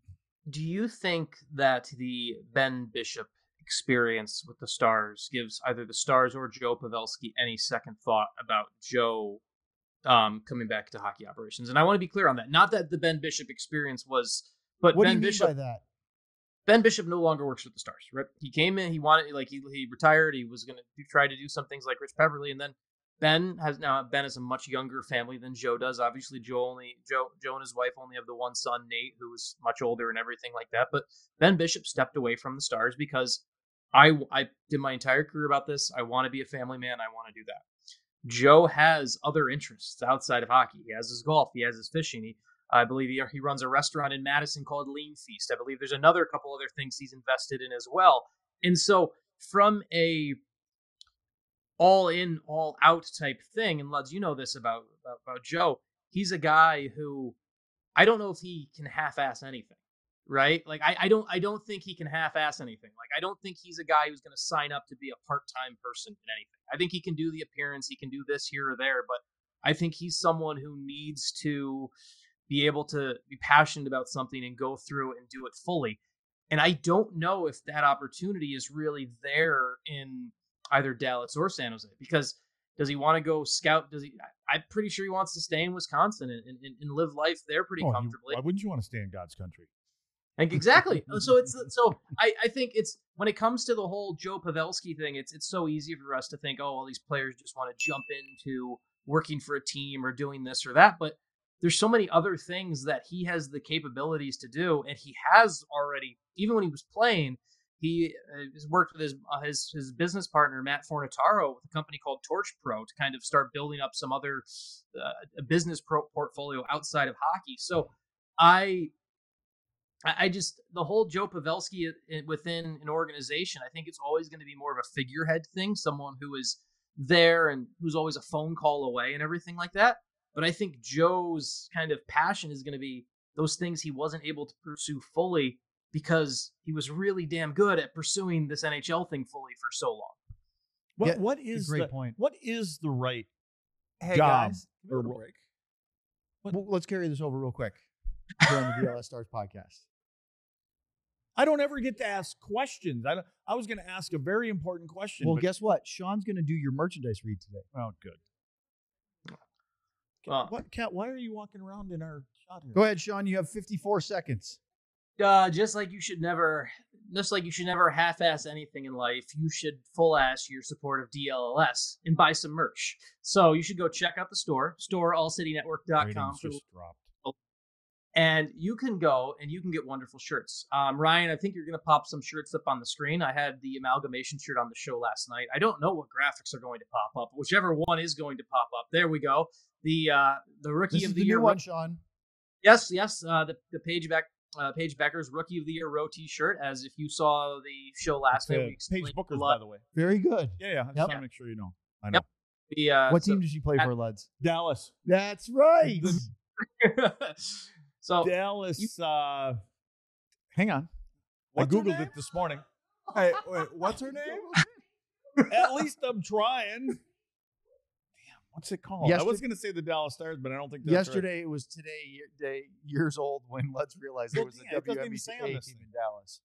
Do you think that the Ben Bishop experience with the Stars gives either the Stars or Joe Pavelski any second thought about Joe um, coming back to hockey operations? And I want to be clear on that. Not that the Ben Bishop experience was, but What Ben do you mean Bishop by that? Ben Bishop no longer works with the Stars. Right? He came in, he wanted, like he he retired. He was going to try to do some things like Rich Peverly, and then Ben has now Ben has a much younger family than Joe does. Obviously, Joe only Joe Joe and his wife only have the one son, Nate, who is much older and everything like that. But Ben Bishop stepped away from the Stars because I I did my entire career about this. I want to be a family man. I want to do that. Joe has other interests outside of hockey. He has his golf. He has his fishing. He, I believe he, he runs a restaurant in Madison called Lean Feast. I believe there's another couple other things he's invested in as well. And so from a all in, all out type thing, and Luds, you know this about, about, about Joe, he's a guy who I don't know if he can half-ass anything, right? Like I, I don't I don't think he can half-ass anything. Like I don't think he's a guy who's going to sign up to be a part-time person in anything. I think he can do the appearance, he can do this here or there, but I think he's someone who needs to be able to be passionate about something and go through it and do it fully. And I don't know if that opportunity is really there in either Dallas or San Jose, because does he want to go scout? Does he? I'm pretty sure he wants to stay in Wisconsin and, and, and live life there pretty Oh, you- comfortably. why wouldn't you want to stay in God's country? Like exactly. So it's so I, I think it's when it comes to the whole Joe Pavelski thing, it's it's so easy for us to think, oh, all these players just want to jump into working for a team or doing this or that. But there's so many other things that he has the capabilities to do, and he has already, even when he was playing, he uh, has worked with his uh, his his business partner Matt Fornataro with a company called Torch Pro to kind of start building up some other uh, a business pro portfolio outside of hockey. So I. I just, the whole Joe Pavelski within an organization, I think it's always going to be more of a figurehead thing, someone who is there and who's always a phone call away and everything like that. But I think Joe's kind of passion is going to be those things he wasn't able to pursue fully because he was really damn good at pursuing this N H L thing fully for so long. What Yeah, what it's a is great the, point. What is the right Hey job guys, or give me a ro- break. Well, let's carry this over real quick during the D L S Stars podcast. I don't ever get to ask questions. I don't, I was going to ask a very important question. Well, but, guess what? Sean's going to do your merchandise read today. oh, good. Uh, What, Kat? Why are you walking around in our shot here? Go ahead, Sean. You have fifty-four seconds. Uh, just like you should never, just like you should never half-ass anything in life, you should full-ass your support of D L L S and buy some merch. So you should go check out the store, store all city network dot com, Ratings just dropped. and you can go and you can get wonderful shirts. Um, Ryan, I think you're going to pop some shirts up on the screen. I had the amalgamation shirt on the show last night. I don't know what graphics are going to pop up. Whichever one is going to pop up. There we go. The uh, the rookie This of is the, the year. new one, Sean. Yes, yes. Uh, the the Paige Beck, uh, Paige Becker's Rookie of the Year row T-shirt. As if you saw the show last night, we Paige explained Booker's, a by lot. the way. Very good. Yeah, yeah. I just Yep. want to make sure you know. I know. Yep. The uh, What so- team did she play at- for, Luds? Dallas. That's right. so Dallas. Uh, hang on. What's I her Googled name? it this morning. Hey, wait, what's her name? At least I'm trying. Damn, what's it called? I was Yesterday- going to say the Dallas Stars, but I don't think that's Yesterday it was today year, day, years old when Lutz realized Well, it was yeah, a it doesn't W even N B say C on A this team thing. in Dallas.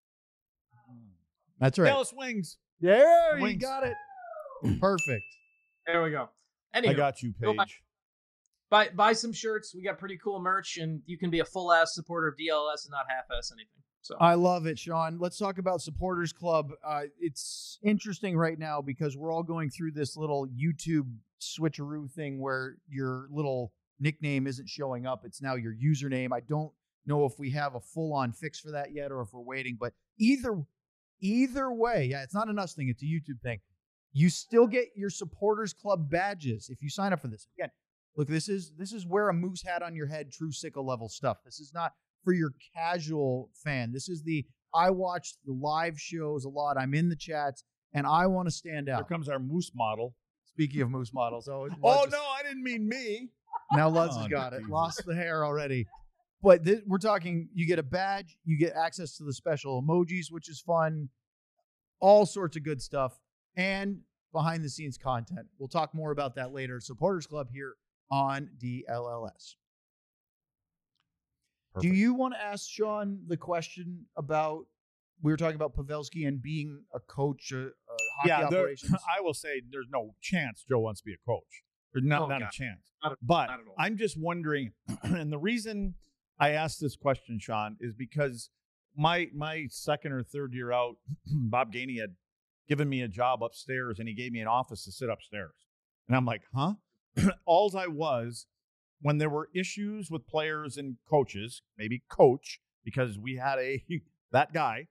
That's right. right. Dallas Wings. There, you Wings. got it. Perfect. There we go. Anyway, I got you, go buy- Paige. buy buy some shirts. We got pretty cool merch, and you can be a full ass supporter of D L S and not half ass anything. So I love it, Sean. Let's talk about Supporters Club. Uh, it's interesting right now because we're all going through this little YouTube switcheroo thing where your little nickname isn't showing up. It's now your username. I don't know if we have a full-on fix for that yet or if we're waiting, but either either way, yeah, it's not an us thing. It's a YouTube thing. You still get your Supporters Club badges if you sign up for this. Again, look, this is this is wear a moose hat on your head, true sickle level stuff. This is not for your casual fan. This is the, I watch the live shows a lot. I'm in the chats, and I want to stand Here out. comes our moose model. Speaking of moose models. Oh, Oh, Lutz no, is- I didn't mean me. Now Lutz Oh, has got it. Jesus. Lost the hair already. But th- we're talking, you get a badge, you get access to the special emojis, which is fun, all sorts of good stuff, and behind the scenes content. We'll talk more about that later. Supporters Club here on D L L S. Perfect. Do you want to ask Sean the question about, we were talking about Pavelski and being a coach, uh, uh, hockey yeah, there, operations? I will say there's no chance Joe wants to be a coach. There's not, Oh, not a God. chance. Not at- but not at all. I'm just wondering, and the reason I asked this question, Sean, is because my my second or third year out, Bob Gainey had given me a job upstairs, and he gave me an office to sit upstairs. And I'm like, huh? Alls I was, when there were issues with players and coaches, maybe coach, because we had a that guy,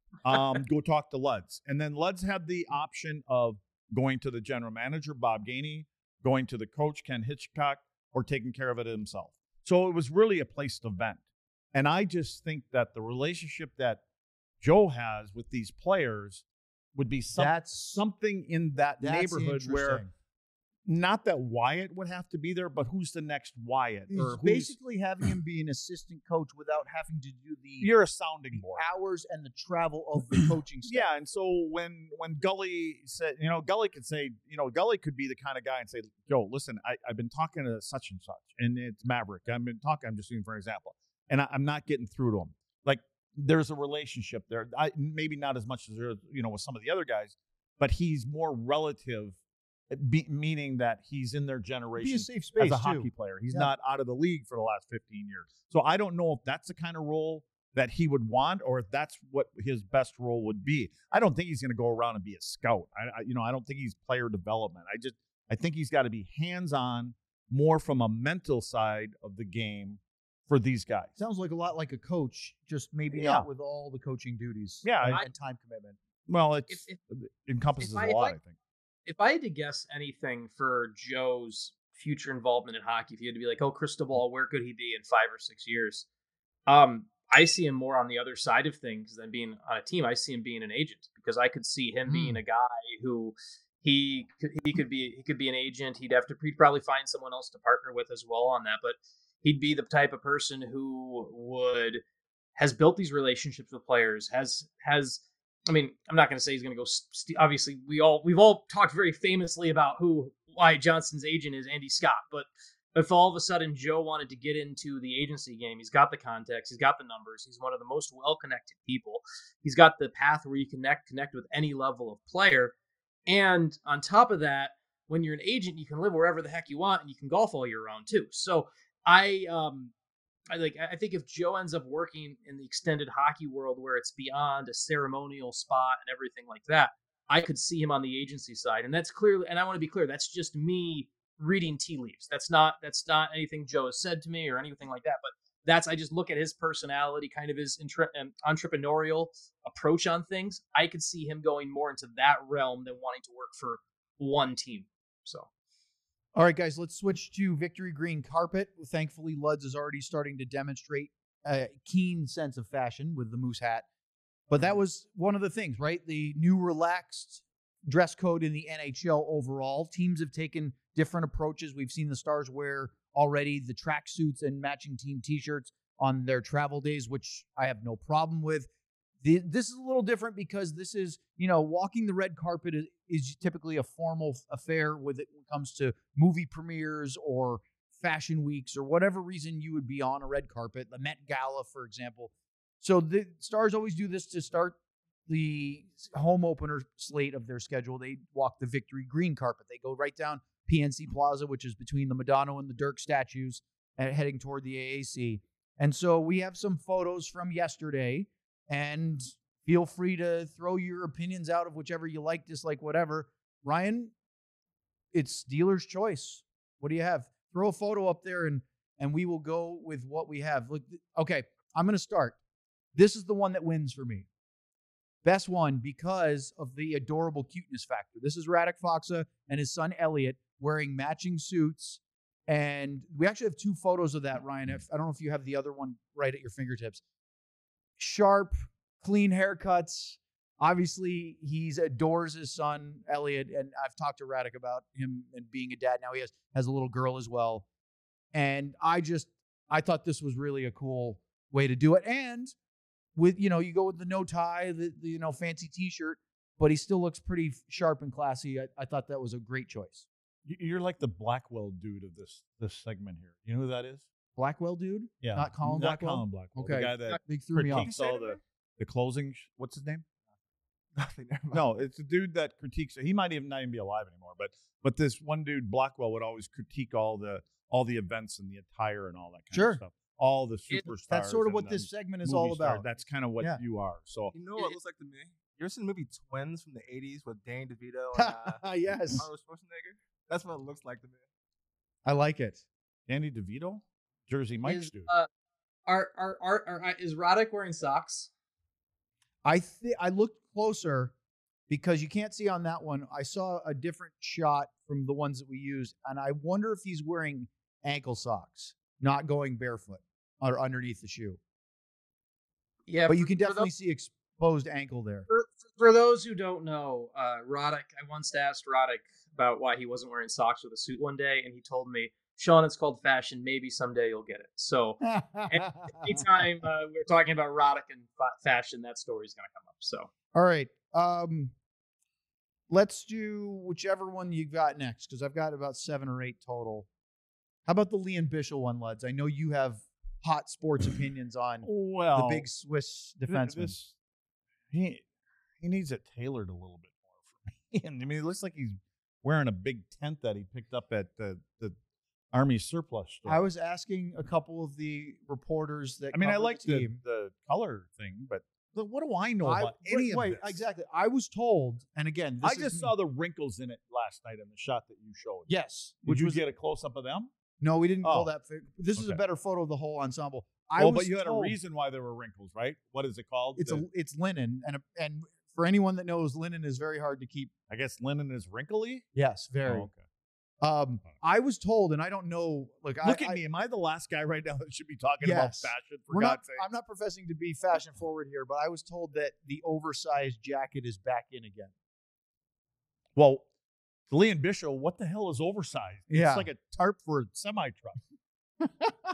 um, go talk to Luds. And then Luds had the option of going to the general manager, Bob Gainey, going to the coach, Ken Hitchcock, or taking care of it himself. So it was really a place to vent. And I just think that the relationship that Joe has with these players would be some, That's- something in that That's neighborhood where interesting. not that Wyatt would have to be there, but who's the next Wyatt? He's Or who's, basically having him be an assistant coach without having to do the you're a sounding board. hours and the travel of the coaching staff. Yeah, and so when when Gully said, you know, Gully could say, you know, Gully could be the kind of guy and say, Joe, listen, I, I've been talking to such and such, and it's Maverick. I've been talking, I'm just using for an example, and I, I'm not getting through to him. Like, there's a relationship there. I, maybe not as much as there, you know, with some of the other guys, but he's more relative, be, meaning that he's in their generation Be a safe space as a too. hockey player. He's Yeah. not out of the league for the last fifteen years. So I don't know if that's the kind of role that he would want, or if that's what his best role would be. I don't think he's going to go around and be a scout. I, I, you know, I don't think he's player development. I just, I think he's got to be hands-on, more from a mental side of the game for these guys. Sounds like a lot like a coach, just maybe Yeah. not with all the coaching duties. Yeah, and, I- and time commitment. Well, it's, If- it encompasses if I- a if lot, I- I think. if I had to guess anything for Joe's future involvement in hockey, if you had to be like, oh, crystal ball, where could he be in five or six years? Um, I see him more on the other side of things than being on a team. I see him being an agent because I could see him being a guy who he could, he could be he could be an agent. He'd have to he'd probably find someone else to partner with as well on that, but he'd be the type of person who would has built these relationships with players, has has I mean, I'm not going to say he's going to go. St- obviously, we all we've all talked very famously about who Wyatt Johnston's agent is, Andy Scott. But if all of a sudden Joe wanted to get into the agency game, he's got the contacts, he's got the numbers, he's one of the most well-connected people. He's got the path where you connect connect with any level of player. And on top of that, when you're an agent, you can live wherever the heck you want, and you can golf all year round too. So I um. I like. I think if Joe ends up working in the extended hockey world where it's beyond a ceremonial spot and everything like that, I could see him on the agency side. And that's clearly. And I want to be clear. That's just me reading tea leaves. That's not. That's not anything Joe has said to me or anything like that. But that's. I just look at his personality, kind of his intra- um, entrepreneurial approach on things. I could see him going more into that realm than wanting to work for one team. So. All right, guys, let's switch to Victory Green Carpet. Thankfully, Luds is already starting to demonstrate a keen sense of fashion with the moose hat. But that was one of the things, right? The new relaxed dress code in the N H L overall. Teams have taken different approaches. We've seen the Stars wear already the tracksuits and matching team T-shirts on their travel days, which I have no problem with. The, this is a little different because this is, you know, walking the red carpet is, is typically a formal affair with it when it comes to movie premieres or fashion weeks or whatever reason you would be on a red carpet, the Met Gala, for example. So the Stars always do this to start the home opener slate of their schedule. They walk the Victory Green carpet. They go right down P N C Plaza, which is between the Madonna and the Dirk statues, and heading toward the A A C. And so we have some photos from yesterday, and feel free to throw your opinions out of whichever you like, dislike, whatever. Ryan, it's dealer's choice. What do you have? Throw a photo up there, and and we will go with what we have. Look, okay, I'm going to start. This is the one that wins for me. Best one because of the adorable cuteness factor. This is Radek Faksa and his son Elliot wearing matching suits. And we actually have two photos of that, Ryan. If, I don't know if you have the other one right at your fingertips. Sharp, clean haircuts. Obviously, he adores his son, Elliot. And I've talked to Radek about him and being a dad. Now he has, has a little girl as well. And I just, I thought this was really a cool way to do it. And with, you know, you go with the no tie, the, the you know, fancy t-shirt, but he still looks pretty sharp and classy. I, I thought that was a great choice. You're like the Blackwell dude of this this segment here. You know who that is? Blackwell dude? Yeah. Not Colin not Blackwell? Colin Blackwell. Okay. The guy that They threw me off. critiques all the, the closing. Sh- what's his name? Nothing. never mind. No, it's a dude that critiques. He might even not even be alive anymore. But but this one dude, Blackwell, would always critique all the all the events and the attire and all that kind Sure. of stuff. All the It- superstars. That's sort of and what the this segment is movie all stars. about. That's kind of what Yeah. you are. So You know what it looks like to me? You ever seen the movie Twins from the eighties with Danny DeVito and uh, Yes. Arnold Schwarzenegger? That's what it looks like to me. I like it. Danny DeVito, Jersey Mike's Is, dude. uh, are, are, are, are, is Roddick wearing socks? I th- I looked closer because you can't see on that one. I saw a different shot from the ones that we used, and I wonder if he's wearing ankle socks, not going barefoot or underneath the shoe. Yeah, But for- you can for definitely those- see exposed ankle there. For, for those who don't know, uh, Roddick, I once asked Roddick about why he wasn't wearing socks with a suit one day, and he told me, Sean, it's called fashion. Maybe someday you'll get it. So anytime uh, we're talking about Roddick and fa- fashion, that story's going to come up. So All right. Um, let's do whichever one you got next, because I've got about seven or eight total. How about the Liam Bichel one, Luds? I know you have hot sports opinions on well, the big Swiss th- defenseman. this- he he needs it tailored a little bit more for me. And I mean, it looks like he's wearing a big tent that he picked up at the the Army surplus store. I was asking a couple of the reporters that I mean, I covered like the the, team. the color thing, but the, what do I know I- about wait, any of wait, this? exactly. I was told, and again, this I is just me- saw the wrinkles in it last night in the shot that you showed. yes, Did which you was get a close up of them? no, we didn't call Oh, that. Fi- this is a okay. better photo of the whole ensemble. I Oh, was but you had told a reason why there were wrinkles, right? What is it called? It's The- a it's linen, and a, and for anyone that knows, linen is very hard to keep. I guess linen is wrinkly. Yes, very. Oh, okay. Um, I was told, and I don't know. Look, Look I, at I, me. Am I the last guy right now that should be talking about Yes. fashion? For We're not, God's sake. I'm not professing to be fashion forward here, but I was told that the oversized jacket is back in again. Well, Liam Bishop, what the hell is oversized? Yeah. It's like a tarp for a semi truck.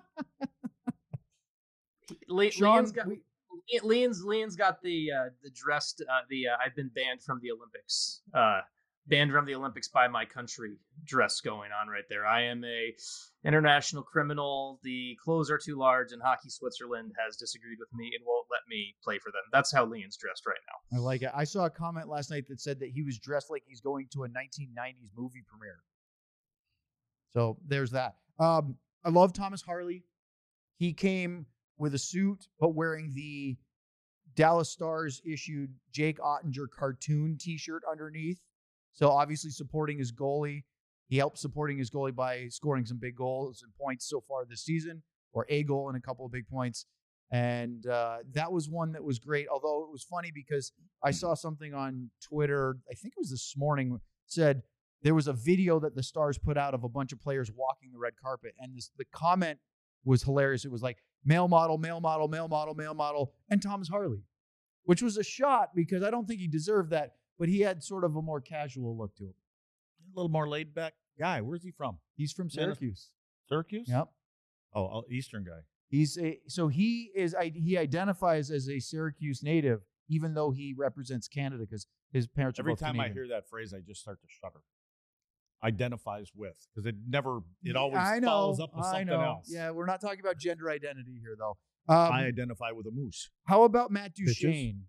Le- Sean, Leon's got we- Le- Leon's Leon's got the uh, the dressed uh, the uh, I've been banned from the Olympics. Uh, banned from the Olympics by my country dress going on right there. I am a international criminal. The clothes are too large, and Hockey Switzerland has disagreed with me and won't let me play for them. That's how Leon's dressed right now. I like it. I saw a comment last night that said that he was dressed like he's going to a nineteen nineties movie premiere. So there's that. Um, I love Thomas Harley. He came with a suit, but wearing the Dallas Stars issued Jake Ottinger cartoon T-shirt underneath. So obviously supporting his goalie. He helped supporting his goalie by scoring some big goals and points so far this season, or a goal and a couple of big points. And uh, that was one that was great. Although it was funny because I saw something on Twitter, I think it was this morning, said there was a video that the Stars put out of a bunch of players walking the red carpet. And this, the comment was hilarious. It was like, male model, male model, male model, male model, and Thomas Harley, which was a shot because I don't think he deserved that, but he had sort of a more casual look to him. A little more laid back guy. Where's he from? He's from Syracuse. Syracuse? Yep. Oh, oh, Eastern guy. He's a, so he is, he identifies as a Syracuse native. even though he represents Canada because his parents are Every both time Canadian. I hear that phrase, I just start to shudder. Identifies with, because it never, it Yeah, always I know, follows up with I something know. else. Yeah, we're not talking about gender identity here, though. Um, I identify with a moose. how about Matt Bitches. Duchene?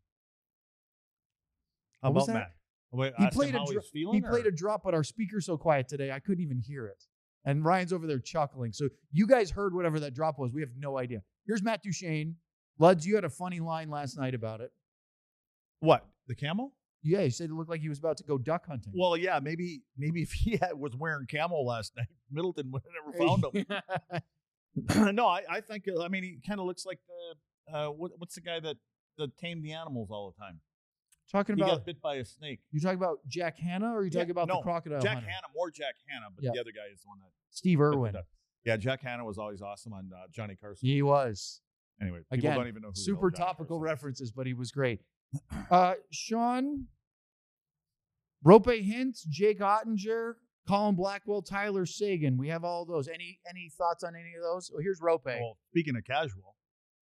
How What was about that? Matt? Wait, He ask him played a how dro- he's feeling. He played or- a drop, but our speaker's so quiet today, I couldn't even hear it. And Ryan's over there chuckling. So you guys heard whatever that drop was. We have no idea. Here's Matt Duchene. Luds, you had a funny line last night about it. what? The camel? Yeah, you said it looked like he was about to go duck hunting. Well, yeah, maybe maybe if he had, was wearing camel last night, Middleton would have never found him. no, I, I think, I mean, he kind of looks like the, uh, what, what's the guy that, that tamed the animals all the time? Talking He about got bit by a snake. you talking about Jack Hanna, or are you Yeah, talking about no, the crocodile Jack hunter? Hanna, more Jack Hanna, but Yeah. the other guy is the one that. Steve that Irwin. did that. Yeah, Jack Hanna was always awesome on uh, Johnny Carson. He was. Anyway, people Again, don't even know who the hell super Johnny topical Carson is. references, but he was great. Uh, Sean, Rope Hintz, Jake Ottinger, Colin Blackwell, Tyler Sagan. We have all those. Any any thoughts on any of those? Well, here's Rope. Well, speaking of casual,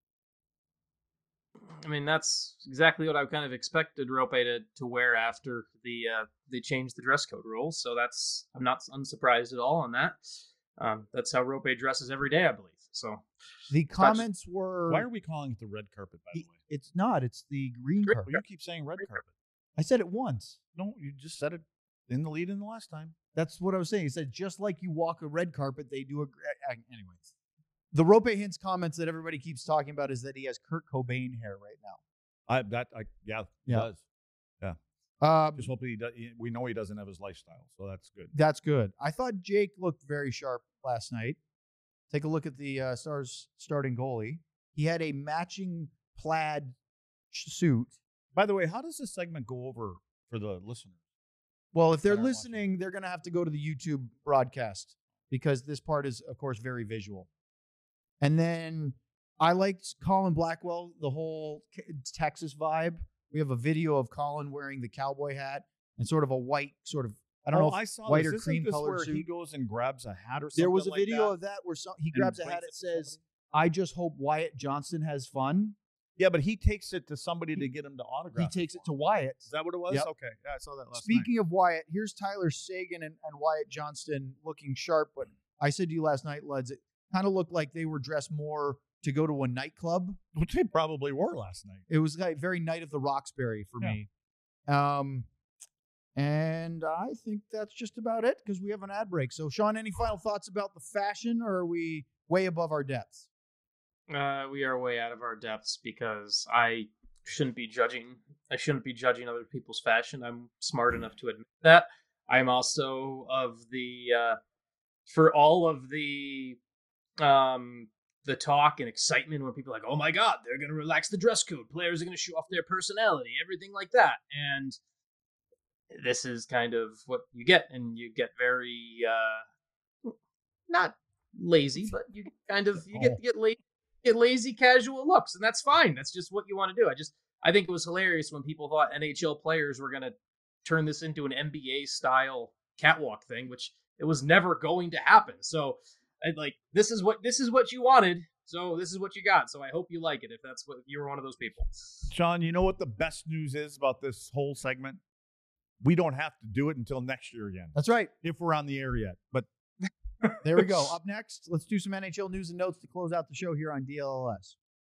I mean, that's exactly what I kind of expected Rope to, to wear after the uh, they changed the dress code rules. So that's I'm not unsurprised at all on that. Um, that's how Rope dresses every day, I believe. So The comments were. why are we calling it the red carpet, by the He- way? It's not. It's the green Green carpet. Well, you keep saying red carpet. I said it once. No, you just said it in the lead in the last time. That's what I was saying. He said just like you walk a red carpet, they do a. gr- uh, Anyways, the Rope Hintz comments that everybody keeps talking about is that he has Kurt Cobain hair right now. I that I yeah, he Yeah. does. Um, Just hope he does. We know he doesn't have his lifestyle, so that's good. That's good. I thought Jake looked very sharp last night. Take a look at the uh, Stars starting goalie. He had a matching plaid sh- suit. By the way, how does this segment go over for the listeners? Well, if they're Aren't watching. listening, they're going to have to go to the YouTube broadcast because this part is, of course, very visual. And then I liked Colin Blackwell, the whole K- Texas vibe. We have a video of Colin wearing the cowboy hat and sort of a white, sort of, I don't oh, know, I if saw white this. or Isn't cream this colored where suit. he goes and grabs a hat or something. There was a like video that? of that where some, he and grabs a brings hat it that to says, somebody? I just hope Wyatt Johnston has fun. Yeah, but he takes it to somebody to get him to He autograph. takes it to Wyatt. Is that what it was? Yep. Okay, yeah, I saw that last Speaking of Wyatt, here's Tyler Sagan and, and Wyatt Johnston looking sharp. But I said to you last night, Luds, it kind of looked like they were dressed more to go to a nightclub. night. Which they probably were last night. It was like very Night of the Roxbury for Yeah. me. Um, and I think that's just about it because we have an ad break. So, Sean, any final thoughts about the fashion, or are we way above our depths? Uh, we are way out of our depths because I shouldn't be judging. I shouldn't be judging other people's fashion. I'm smart enough to admit that. I'm also of the uh, for all of the um the talk and excitement when people are like, oh my god, they're gonna relax the dress code. Players are gonna show off their personality, everything like that. And this is kind of what you get, and you get very uh not lazy, but you kind of you get get lazy. Get lazy casual looks, and that's fine. That's just what you want to do. I just I think it was hilarious when people thought N H L players were going to turn this into an N B A style catwalk thing, which it was never going to happen. So, I, like this is what this is what you wanted. So this is what you got. So I hope you like it if that's what if you were one of those people. Sean, you know what the best news is about this whole segment? We don't have to do it until next year again, That's right. if we're on the air yet. But There we go. Up next, let's do some N H L news and notes to close out the show here on D L L S.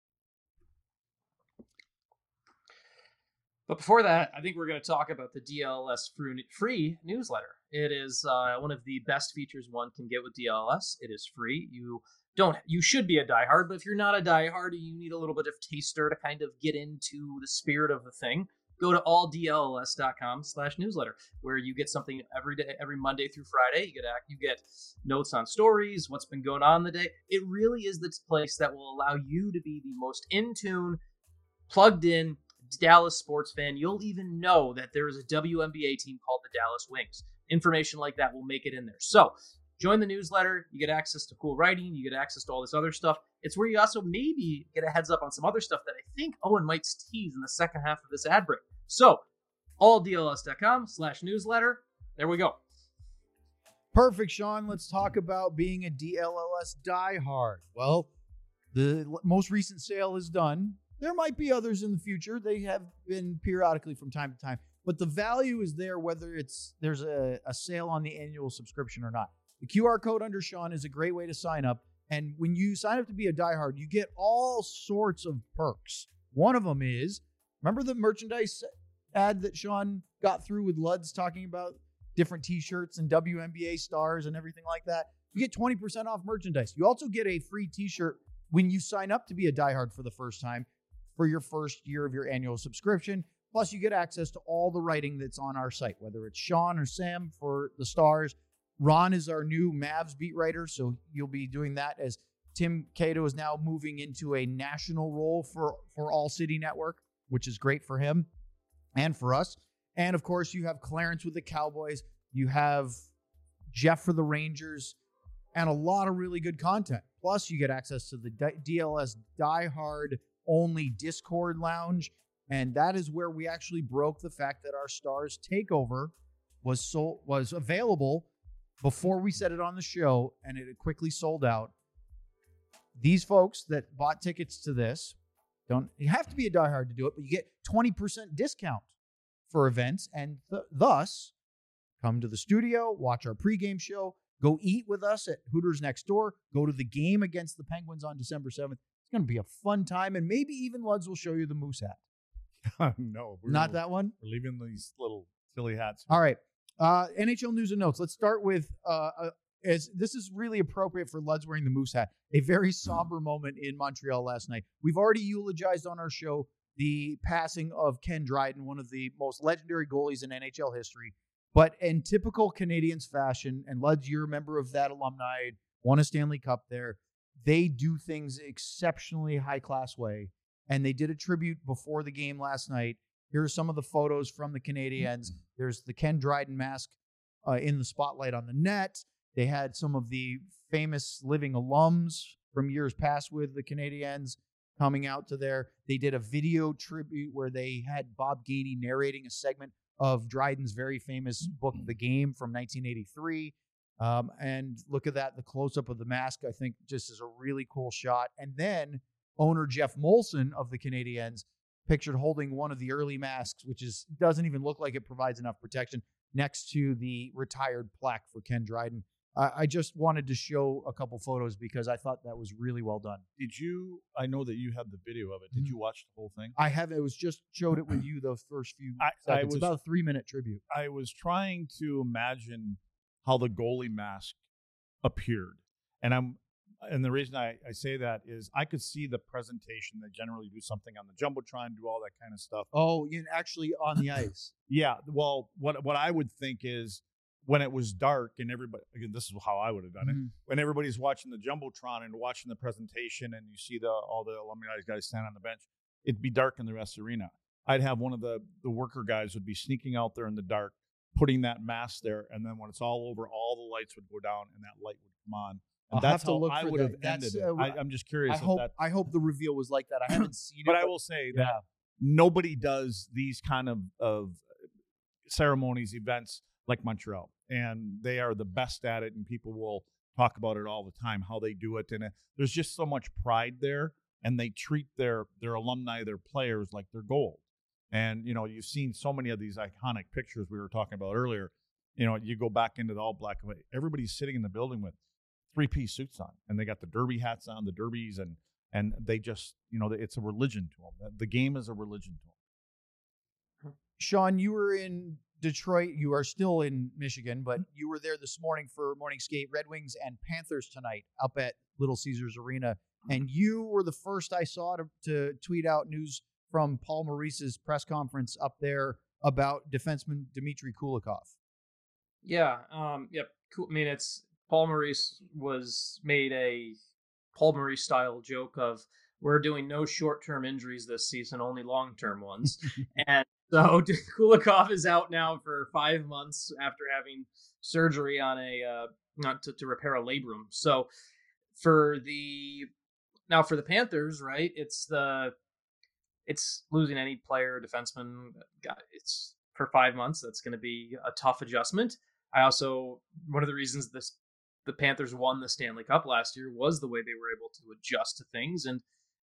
But before that, I think we're going to talk about the D L L S free, free newsletter. It is uh, one of the best features one can get with D L L S. It is free. You don't. You should be a diehard, but if you're not a diehard and you need a little bit of taster to kind of get into the spirit of the thing, go to all D L L S dot com slash newsletter, where you get something every day, every Monday through Friday. You get you get notes on stories, what's been going on in the day. It really is the place that will allow you to be the most in tune, plugged in Dallas sports fan. You'll even know that there is a W N B A team called the Dallas Wings. Information like that will make it in there. So join the newsletter. You get access to cool writing. You get access to all this other stuff. It's where you also maybe get a heads up on some other stuff that I think Owen might tease in the second half of this ad break. So all D L S dot com slash newsletter. There we go. Perfect, Sean. Let's talk about being a D L L S diehard. Well, the l- most recent sale is done. There might be others in the future. They have been periodically from time to time, but the value is there whether it's there's a, a sale on the annual subscription or not. The Q R code under Sean is a great way to sign up. And when you sign up to be a diehard, you get all sorts of perks. One of them is, remember the merchandise ad that Sean got through with Luds talking about different t-shirts and W N B A stars and everything like that? You get twenty percent off merchandise. You also get a free t-shirt when you sign up to be a diehard for the first time for your first year of your annual subscription. Plus, you get access to all the writing that's on our site, whether it's Sean or Sam for the Stars. Ron is our new Mavs beat writer, so you'll be doing that as Tim Cato is now moving into a national role for, for All City Network, which is great for him and for us. And, of course, you have Clarence with the Cowboys. You have Jeff for the Rangers and a lot of really good content. Plus, you get access to the D L S Die Hard only Discord lounge. And that is where we actually broke the fact that our Stars Takeover was sold, was available before we said it on the show, and it had quickly sold out. These folks that bought tickets to this, don't you have to be a diehard to do it, but you get twenty percent discount for events, and th- thus come to the studio, watch our pregame show, go eat with us at Hooters Next Door, go to the game against the Penguins on December seventh. It's going to be a fun time, and maybe even Luds will show you the moose hat. No. Not gonna, that one? We're leaving these little silly hats. All right. Uh, N H L news and notes. Let's start with, uh, uh, as this is really appropriate for Luds wearing the moose hat, a very somber moment in Montreal last night. We've already eulogized on our show the passing of Ken Dryden, one of the most legendary goalies in N H L history. But in typical Canadians fashion, and Luds, you're a member of that alumni, won a Stanley Cup there, they do things exceptionally high-class way. And they did a tribute before the game last night. Here are some of the photos from the Canadiens. There's the Ken Dryden mask uh, in the spotlight on the net. They had some of the famous living alums from years past with the Canadiens coming out to there. They did a video tribute where they had Bob Gainey narrating a segment of Dryden's very famous book, The Game, from nineteen eighty-three. Um, and look at that, the close-up of the mask, I think, just is a really cool shot. And then owner Jeff Molson of the Canadiens pictured holding one of the early masks, which is doesn't even look like it provides enough protection, next to the retired plaque for Ken Dryden. Uh, I just wanted to show a couple photos because I thought that was really well done. Did you, I know that you had the video of it. Did Mhm. you watch the whole thing? I have, it was just showed it with you those first few I- seconds. I was- About a three-minute tribute. I was trying to imagine how the goalie mask appeared. And I'm, and the reason I, I say that is I could see the presentation. They generally do something on the Jumbotron, do all that kind of stuff. Oh, you actually on the ice. Yeah. Well, what what I would think is when it was dark and everybody, again, this is how I would have done it. Mhm. When everybody's watching the Jumbotron and watching the presentation and you see the all the alumni guys stand on the bench, it'd be dark in the rest of the arena. I'd have one of the, the worker guys would be sneaking out there in the dark, putting that mask there. And then when it's all over, all the lights would go down and that light would come on. And I'll that's have to how look I for would that. have That's, ended it. uh, I, I'm just curious I if hope that. I hope the reveal was like that. I haven't seen it. But I will say that yeah. nobody does these kind of, of ceremonies, events like Montreal. And they are the best at it, and people will talk about it all the time, how they do it. And uh, there's just so much pride there, and they treat their, their alumni, their players, like they're gold. And, you know, you've seen so many of these iconic pictures we were talking about earlier. You know, you go back into the all black and white. Everybody's sitting in the building with three-piece suits on, and they got the derby hats on, the derbies, and and they just, you know, it's a religion to them. The game is a religion to them. Sean, you were in Detroit. You are still in Michigan, but you were there this morning for morning skate. Red Wings and Panthers tonight up at Little Caesars Arena. And you were the first I saw to, to tweet out news from Paul Maurice's press conference up there about defenseman Dmitry Kulikov. Yeah. Um, yep. Cool. I mean, it's Paul Maurice was made a Paul Maurice style joke of we're doing no short-term injuries this season, only long-term ones. And so Kulikov is out now for five months after having surgery on a uh, not to, to repair a labrum. So for the now for the Panthers, right? It's the it's losing any player, defenseman. It's for five months. That's going to be a tough adjustment. I also one of the reasons this the Panthers won the Stanley Cup last year was the way they were able to adjust to things. And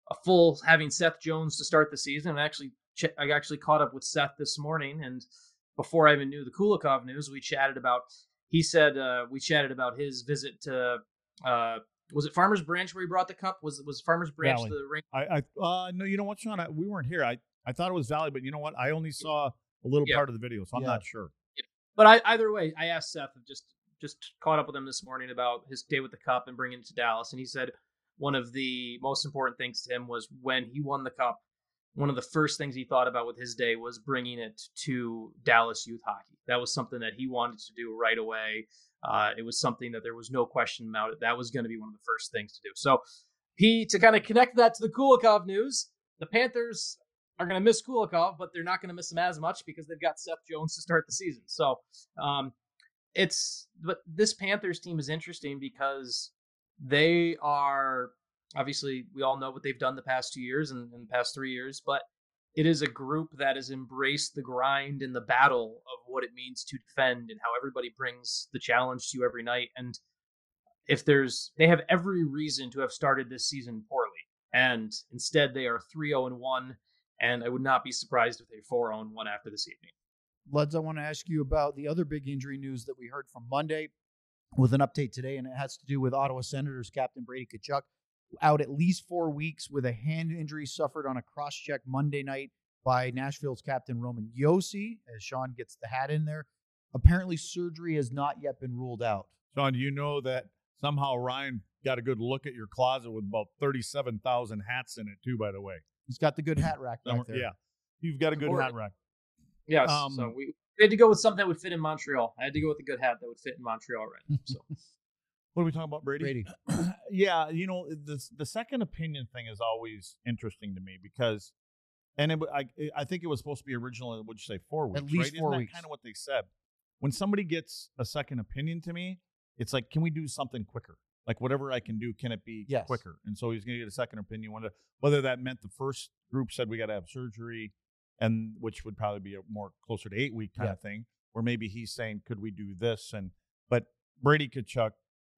a full having Seth Jones to start the season. I actually ch- I actually caught up with Seth this morning, and before I even knew the Kulikov news, we chatted about. He said uh, we chatted about his visit to. Uh, was it Farmers Branch where he brought the cup? Was was Farmers Branch Valley. the ring? I, I uh, no, you know what, Sean? I, we weren't here. I, I thought it was Valley, but you know what? I only saw a little Yeah. part of the video, so I'm Yeah. not sure. But I, either way, I asked Seth, just just caught up with him this morning about his day with the cup and bringing it to Dallas, and he said one of the most important things to him was when he won the cup. One of the first things he thought about with his day was bringing it to Dallas youth hockey. That was something that he wanted to do right away. Uh, it was something that there was no question about it. That was going to be one of the first things to do. So he, to kind of connect that to the Kulikov news, the Panthers are going to miss Kulikov, but they're not going to miss him as much because they've got Seth Jones to start the season. So um, it's, but this Panthers team is interesting because they are, obviously, we all know what they've done the past two years and, and the past three years, but it is a group that has embraced the grind and the battle of what it means to defend and how everybody brings the challenge to you every night. And if there's, they have every reason to have started this season poorly. And instead, they are three oh and one. And I would not be surprised if they're four oh and one after this evening. Luds, I want to ask you about the other big injury news that we heard from Monday with an update today, and it has to do with Ottawa Senators captain Brady Tkachuk, out at least four weeks with a hand injury suffered on a cross-check Monday night by Nashville's captain Roman Josi, as Sean gets the hat in there. Apparently, surgery has not yet been ruled out. Sean, do you know that somehow Ryan got a good look at your closet with about thirty-seven thousand hats in it, too, by the way? He's got the good hat rack back there. Yeah, you've got a good Or- hat rack. Yes. Um, so we, we had to go with something that would fit in Montreal. I had to go with a good hat that would fit in Montreal right now. So What are we talking about, Brady? Brady. Yeah, you know, the the second opinion thing is always interesting to me because, and it, I I think it was supposed to be originally, would you say four weeks? At least right? four Isn't weeks. That kind of what they said. When somebody gets a second opinion to me, it's like, can we do something quicker? Like whatever I can do, can it be Yes. quicker? And so he's going to get a second opinion. Whether whether that meant the first group said we got to have surgery, and which would probably be a more closer to eight week kind Yeah. of thing, or maybe he's saying, could we do this? And but Brady Tkachuk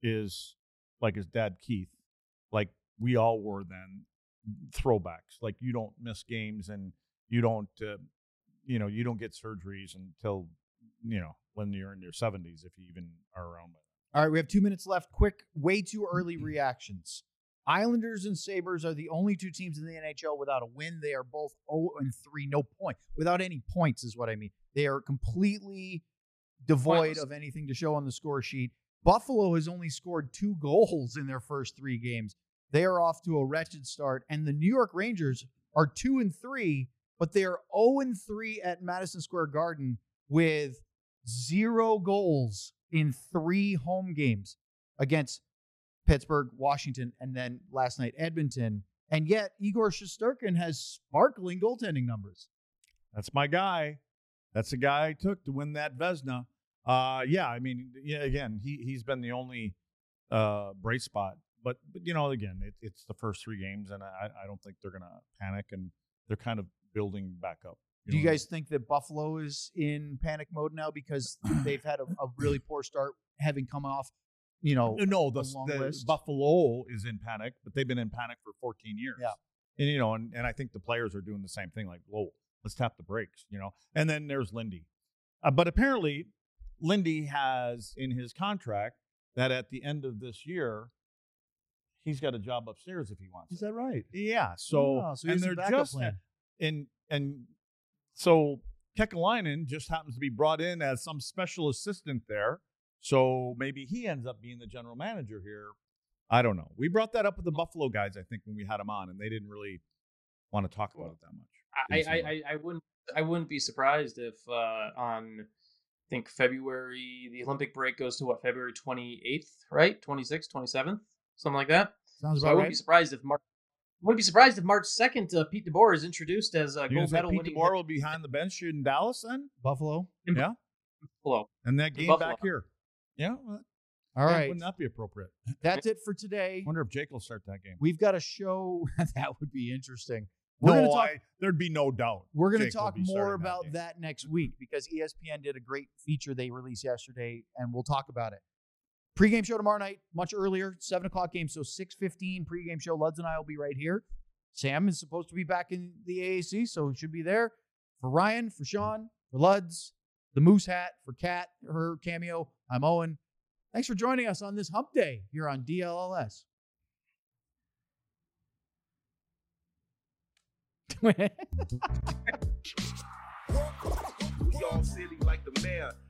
is like his dad Keith, like we all were then, throwbacks. Like you don't miss games and you don't, uh, you know, you don't get surgeries until, you know, when you're in your seventies, if you even are around by then. All right, we have two minutes left. Quick, way too early reactions. Islanders and Sabres are the only two teams in the N H L without a win. They are both oh and three, no point. Without any points is what I mean. They are completely devoid Pointless. of anything to show on the score sheet. Buffalo has only scored two goals in their first three games. They are off to a wretched start. And the New York Rangers are two and three, but they are oh and three at Madison Square Garden with zero goals in three home games against Pittsburgh, Washington, and then last night Edmonton. And yet Igor Shesterkin has sparkling goaltending numbers. That's my guy. That's the guy I took to win that Vezina. Uh, yeah, I mean, yeah, again, he, he's been the only uh, bright spot. But, but you know, again, it, it's the first three games, and I, I don't think they're going to panic, and they're kind of building back up. Do you know? guys think that Buffalo is in panic mode now because they've had a, a really poor start, having come off, you know, No, the, a long the list? Buffalo is in panic, but they've been in panic for fourteen years. Yeah. And, you know, and, and I think the players are doing the same thing, like, whoa, let's tap the brakes, you know. And then there's Lindy. Uh, but apparently, Lindy has in his contract that at the end of this year, he's got a job upstairs if he wants Is it. that right? Yeah. So, Oh, so he and has a they're backup just, plan. and, and so Kekalainen just happens to be brought in as some special assistant there. So maybe he ends up being the general manager here. I don't know. We brought that up with the Buffalo guys, I think, when we had them on, and they didn't really want to talk about it that much. I, Didn't seem I, like- I, I wouldn't I wouldn't be surprised if uh, on I think February the Olympic break goes to what February twenty-eighth, right? twenty-sixth, twenty-seventh, something like that. Sounds So I about wouldn't right. be surprised if March wouldn't be surprised if March second uh, Pete DeBoer is introduced as a You gonna gold say medal Pete winning DeBoer will be behind the bench in Dallas then? Buffalo. Yeah. Buffalo. And that game Buffalo. back here. Yeah. Well, All yeah, right. Wouldn't that be appropriate? That's it for today. I wonder if Jake will start that game. We've got a show that would be interesting. We're no, gonna talk. I, there'd be no doubt. We're going to Jake will talk be more starting that about game. that next week because E S P N did a great feature they released yesterday, and we'll talk about it. Pre-game show tomorrow night, much earlier, seven o'clock game, so six fifteen pregame show. Luds and I will be right here. Sam is supposed to be back in the A A C, so he should be there. For Ryan, for Sean, for Luds, the Moose Hat, for Kat, her cameo, I'm Owen. Thanks for joining us on this hump day here on D L L S. We all silly like the mayor.